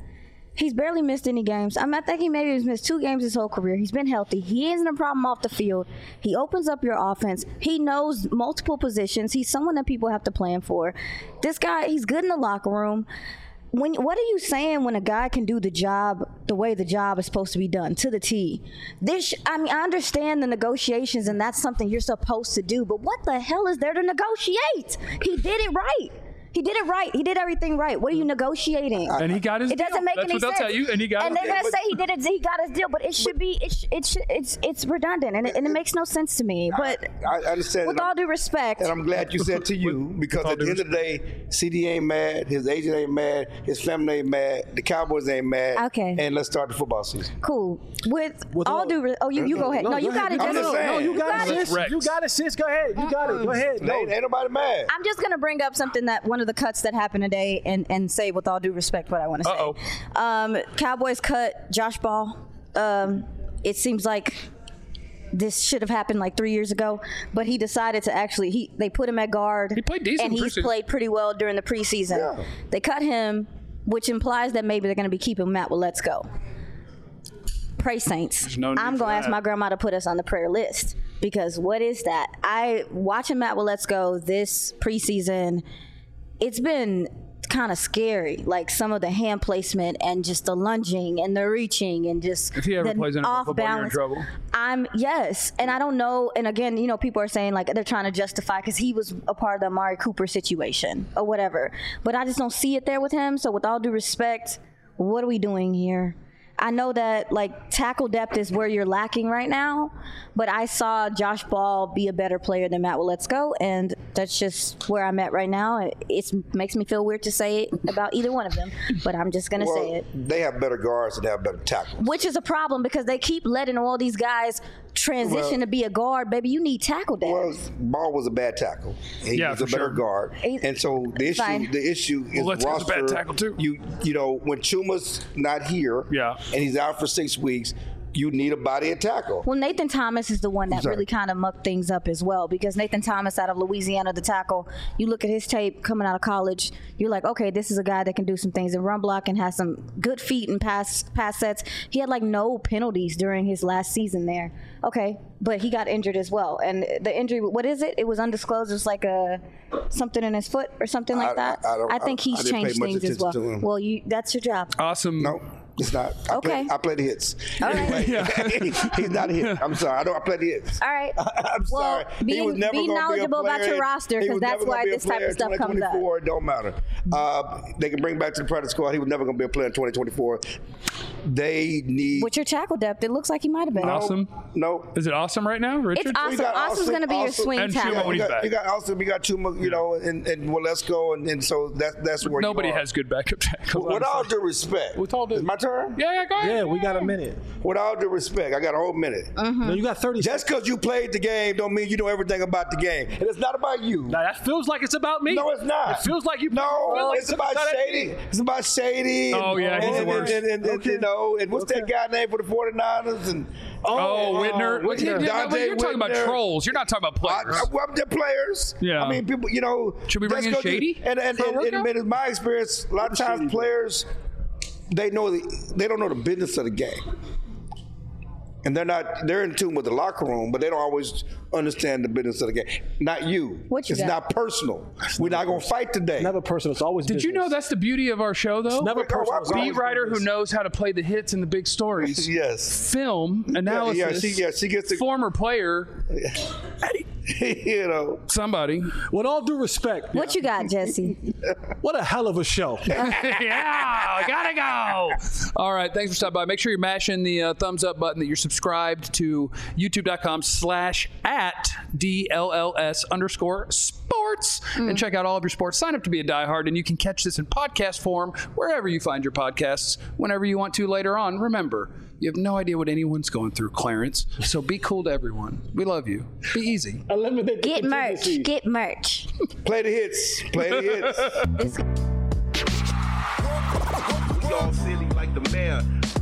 S5: He's barely missed any games. I, mean, I think he maybe has missed two games his whole career. He's been healthy. He isn't a problem off the field. He opens up your offense. He knows multiple positions. He's someone that people have to plan for. This guy, he's good in the locker room. When what are you saying when a guy can do the job the way the job is supposed to be done to the T? This, I mean, I understand the negotiations, and that's something you're supposed to do. But what the hell is there to negotiate? He did it right. He did it right. He did everything right. What are you negotiating?
S1: And he got his
S5: It
S1: deal.
S5: doesn't make
S1: That's
S5: any
S1: what they'll
S5: sense.
S1: tell you. And he got
S5: and
S1: his
S5: they're
S1: deal.
S5: gonna say he did it. He got his deal, but it should be. It sh- it sh- it's it's it's redundant, and it, and it makes no sense to me. But
S3: I understand.
S5: with
S3: and
S5: all
S3: I'm-
S5: due respect,
S3: And I'm glad you said to you, because
S1: all
S3: at the
S1: due
S3: end of the day, C D ain't mad, his agent ain't mad, his family ain't mad, the Cowboys ain't mad.
S5: Okay.
S3: And let's start the football season.
S5: cool. With,
S2: With
S5: all
S2: all-
S5: due, re- oh, you you go ahead. No, you got it.
S3: I'm
S5: Jesse.
S3: just saying.
S2: No, you got,
S5: got
S2: it,
S5: it.
S2: sis.
S1: Rex.
S2: You got it, sis. Go ahead. You got it. Go ahead. Go.
S3: Ain't, ain't nobody mad.
S5: I'm just gonna bring up something that one of the cuts that happened today, and, and say with all due respect what I want to say.
S1: Uh-oh.
S5: Um, Cowboys cut Josh Ball. Um, it seems like this should have happened like three years ago, but he decided to actually he they put him at guard.
S1: He played decent
S5: and he's
S1: preseason.
S5: played pretty well during the preseason.
S3: Yeah.
S5: They cut him, which implies that maybe they're going to be keeping Matt. Well, let's go. Pray Saints.
S1: no need
S5: I'm
S1: for
S5: going to ask
S1: that.
S5: my grandma to put us on the prayer list, because what is that? I watching Matt Well Let's Go this preseason. It's been kind of scary, like some of the hand placement and just the lunging and the reaching and just
S1: If he ever
S5: the
S1: plays N F L
S5: off
S1: football, you're in
S5: balance.
S1: trouble.
S5: I'm yes, and I don't know. And again, you know, people are saying like they're trying to justify because he was a part of the Amari Cooper situation or whatever. But I just don't see it there with him. So with all due respect, what are we doing here? I know that like tackle depth is where you're lacking right now, but I saw Josh Ball be a better player than Matt Well Let's Go, and that's just where I'm at right now. It it's, makes me feel weird to say it about either one of them, but I'm just gonna
S3: well,
S5: say it.
S3: they have better guards and they have better tackles.
S5: Which is a problem because they keep letting all these guys transition
S3: Well-
S5: to be a guard. Baby, you need tackle depth.
S3: Well, Ball was a bad tackle. He
S1: Yeah,
S3: was a
S1: for
S3: better
S1: sure.
S3: guard,
S5: He's-
S3: and so the issue,
S5: Fine.
S3: the issue is
S1: Well, let's go with
S3: roster.
S1: the bad tackle, too.
S3: You, you know, when Chuma's not here,
S1: Yeah.
S3: and he's out for six weeks, you need a body at tackle.
S5: Well, Nathan Thomas is the one that
S3: Sorry.
S5: really kind of mucked things up as well, because Nathan Thomas out of Louisiana, the tackle, you look at his tape coming out of college, you're like, okay, this is a guy that can do some things in run block and has some good feet and pass pass sets. He had like no penalties during his last season there. Okay, but he got injured as well. And the injury, what is it? It was undisclosed. It's like a something in his foot or something like
S3: I-
S5: that.
S3: I- I don't-
S5: think
S3: I-
S5: he's
S3: I didn't pay
S5: changed
S3: much
S5: things as well.
S3: attention to him.
S5: Well, you that's your job.
S1: Awesome.
S3: No, it's not. I
S5: Okay.
S3: Play, I play the hits.
S5: All right.
S3: Anyway, he's not a hit. I'm sorry. I don't. I play the hits.
S5: All right.
S3: I'm
S5: Well,
S3: sorry.
S5: be-
S3: he was never
S5: be
S3: gonna
S5: knowledgeable
S3: be a
S5: about
S3: player.
S5: your roster,
S3: He
S5: 'cause
S3: was
S5: that's
S3: never gonna
S5: why
S3: be a
S5: this type of
S3: player in
S5: stuff comes up.
S3: twenty twenty-four. It don't matter. Uh, they can bring back to the practice squad. He was never going to be a player in twenty twenty-four. They need.
S5: With your tackle depth, it looks like he might have been.
S1: Awesome.
S3: No.
S1: Is it awesome right now, Richard?
S5: It's awesome.
S3: You got
S5: Awesome's
S3: Austin-
S5: going to be your
S3: Austin-
S5: swing
S1: and
S5: talent.
S1: Chuma when
S3: you
S1: he's
S3: got,
S1: back.
S3: you got Austin, you got Chuma, you know, and, and well, let's go, and, and so that, that's where
S1: Nobody
S3: you are.
S1: has good backup tackles.
S3: With all
S1: honestly.
S3: due respect,
S1: With all due-
S3: it's my turn.
S1: Yeah, yeah, go ahead.
S2: Yeah, we got a minute.
S3: With all due respect, I got a whole minute.
S2: No, you got thirty.
S3: Just because you played the game, don't mean you know everything about the game, and it's not about you.
S2: Now, that feels like it's about me.
S3: No, it's not.
S2: It feels like you.
S3: No,
S2: feel like
S3: it's about
S2: not at
S3: Shady.
S2: me.
S3: It's about Shady. And,
S1: Oh, yeah, he's
S3: and,
S1: the worst.
S3: And, and, and,
S2: Okay.
S3: you know, and what's that
S2: Okay.
S3: guy name for the forty-niners? And
S1: Oh, Whitner. What-
S2: Whitner.
S1: yeah, yeah,
S3: Dante
S1: you're talking about
S3: Whitner.
S1: trolls. You're not talking about
S3: I,
S1: players.
S3: I, well, they're players.
S1: Yeah.
S3: I mean, people. You know,
S1: Should we bring
S3: just
S1: in
S3: 'cause you-
S1: Shady
S3: And and,
S1: for a
S3: and, and,
S1: workout?
S3: in my experience, a lot of times players, they know the, they don't know the business of the game. And they're not, they're in tune with the locker room, but they don't always understand the business of the game. Not you.
S5: What you
S3: it's
S5: got?
S3: not personal. We're not going to fight today.
S2: Never personal. It's always.
S1: Did you know that's the beauty of our show, though?
S2: never
S3: Oh,
S2: personal?
S3: I'm
S2: It's
S3: sorry.
S1: Beat
S2: always
S1: writer who
S2: business.
S1: knows how to play the hits and the big stories.
S3: Yes.
S1: Film analysis.
S3: Yeah, she, yeah, she gets the,
S1: Former player,
S3: you know.
S1: somebody.
S2: With all due respect,
S5: What you got, Jesse?
S2: what a hell of a show.
S1: Yeah, gotta go. All right, thanks for stopping by. Make sure you're mashing the uh, thumbs up button, that you're subscribed to youtube.com slash at DLLS underscore sports and check out all of your sports. Sign up to be a diehard, and you can catch this in podcast form wherever you find your podcasts whenever you want to later on. Remember, you have no idea what anyone's going through, Clarence, so be cool to everyone. We love you. Be easy.
S2: Eliminate the
S5: Get merch.
S2: contingencies.
S5: Get merch.
S3: Play the hits. Play the hits.
S5: This-
S6: We all silly like the mayor.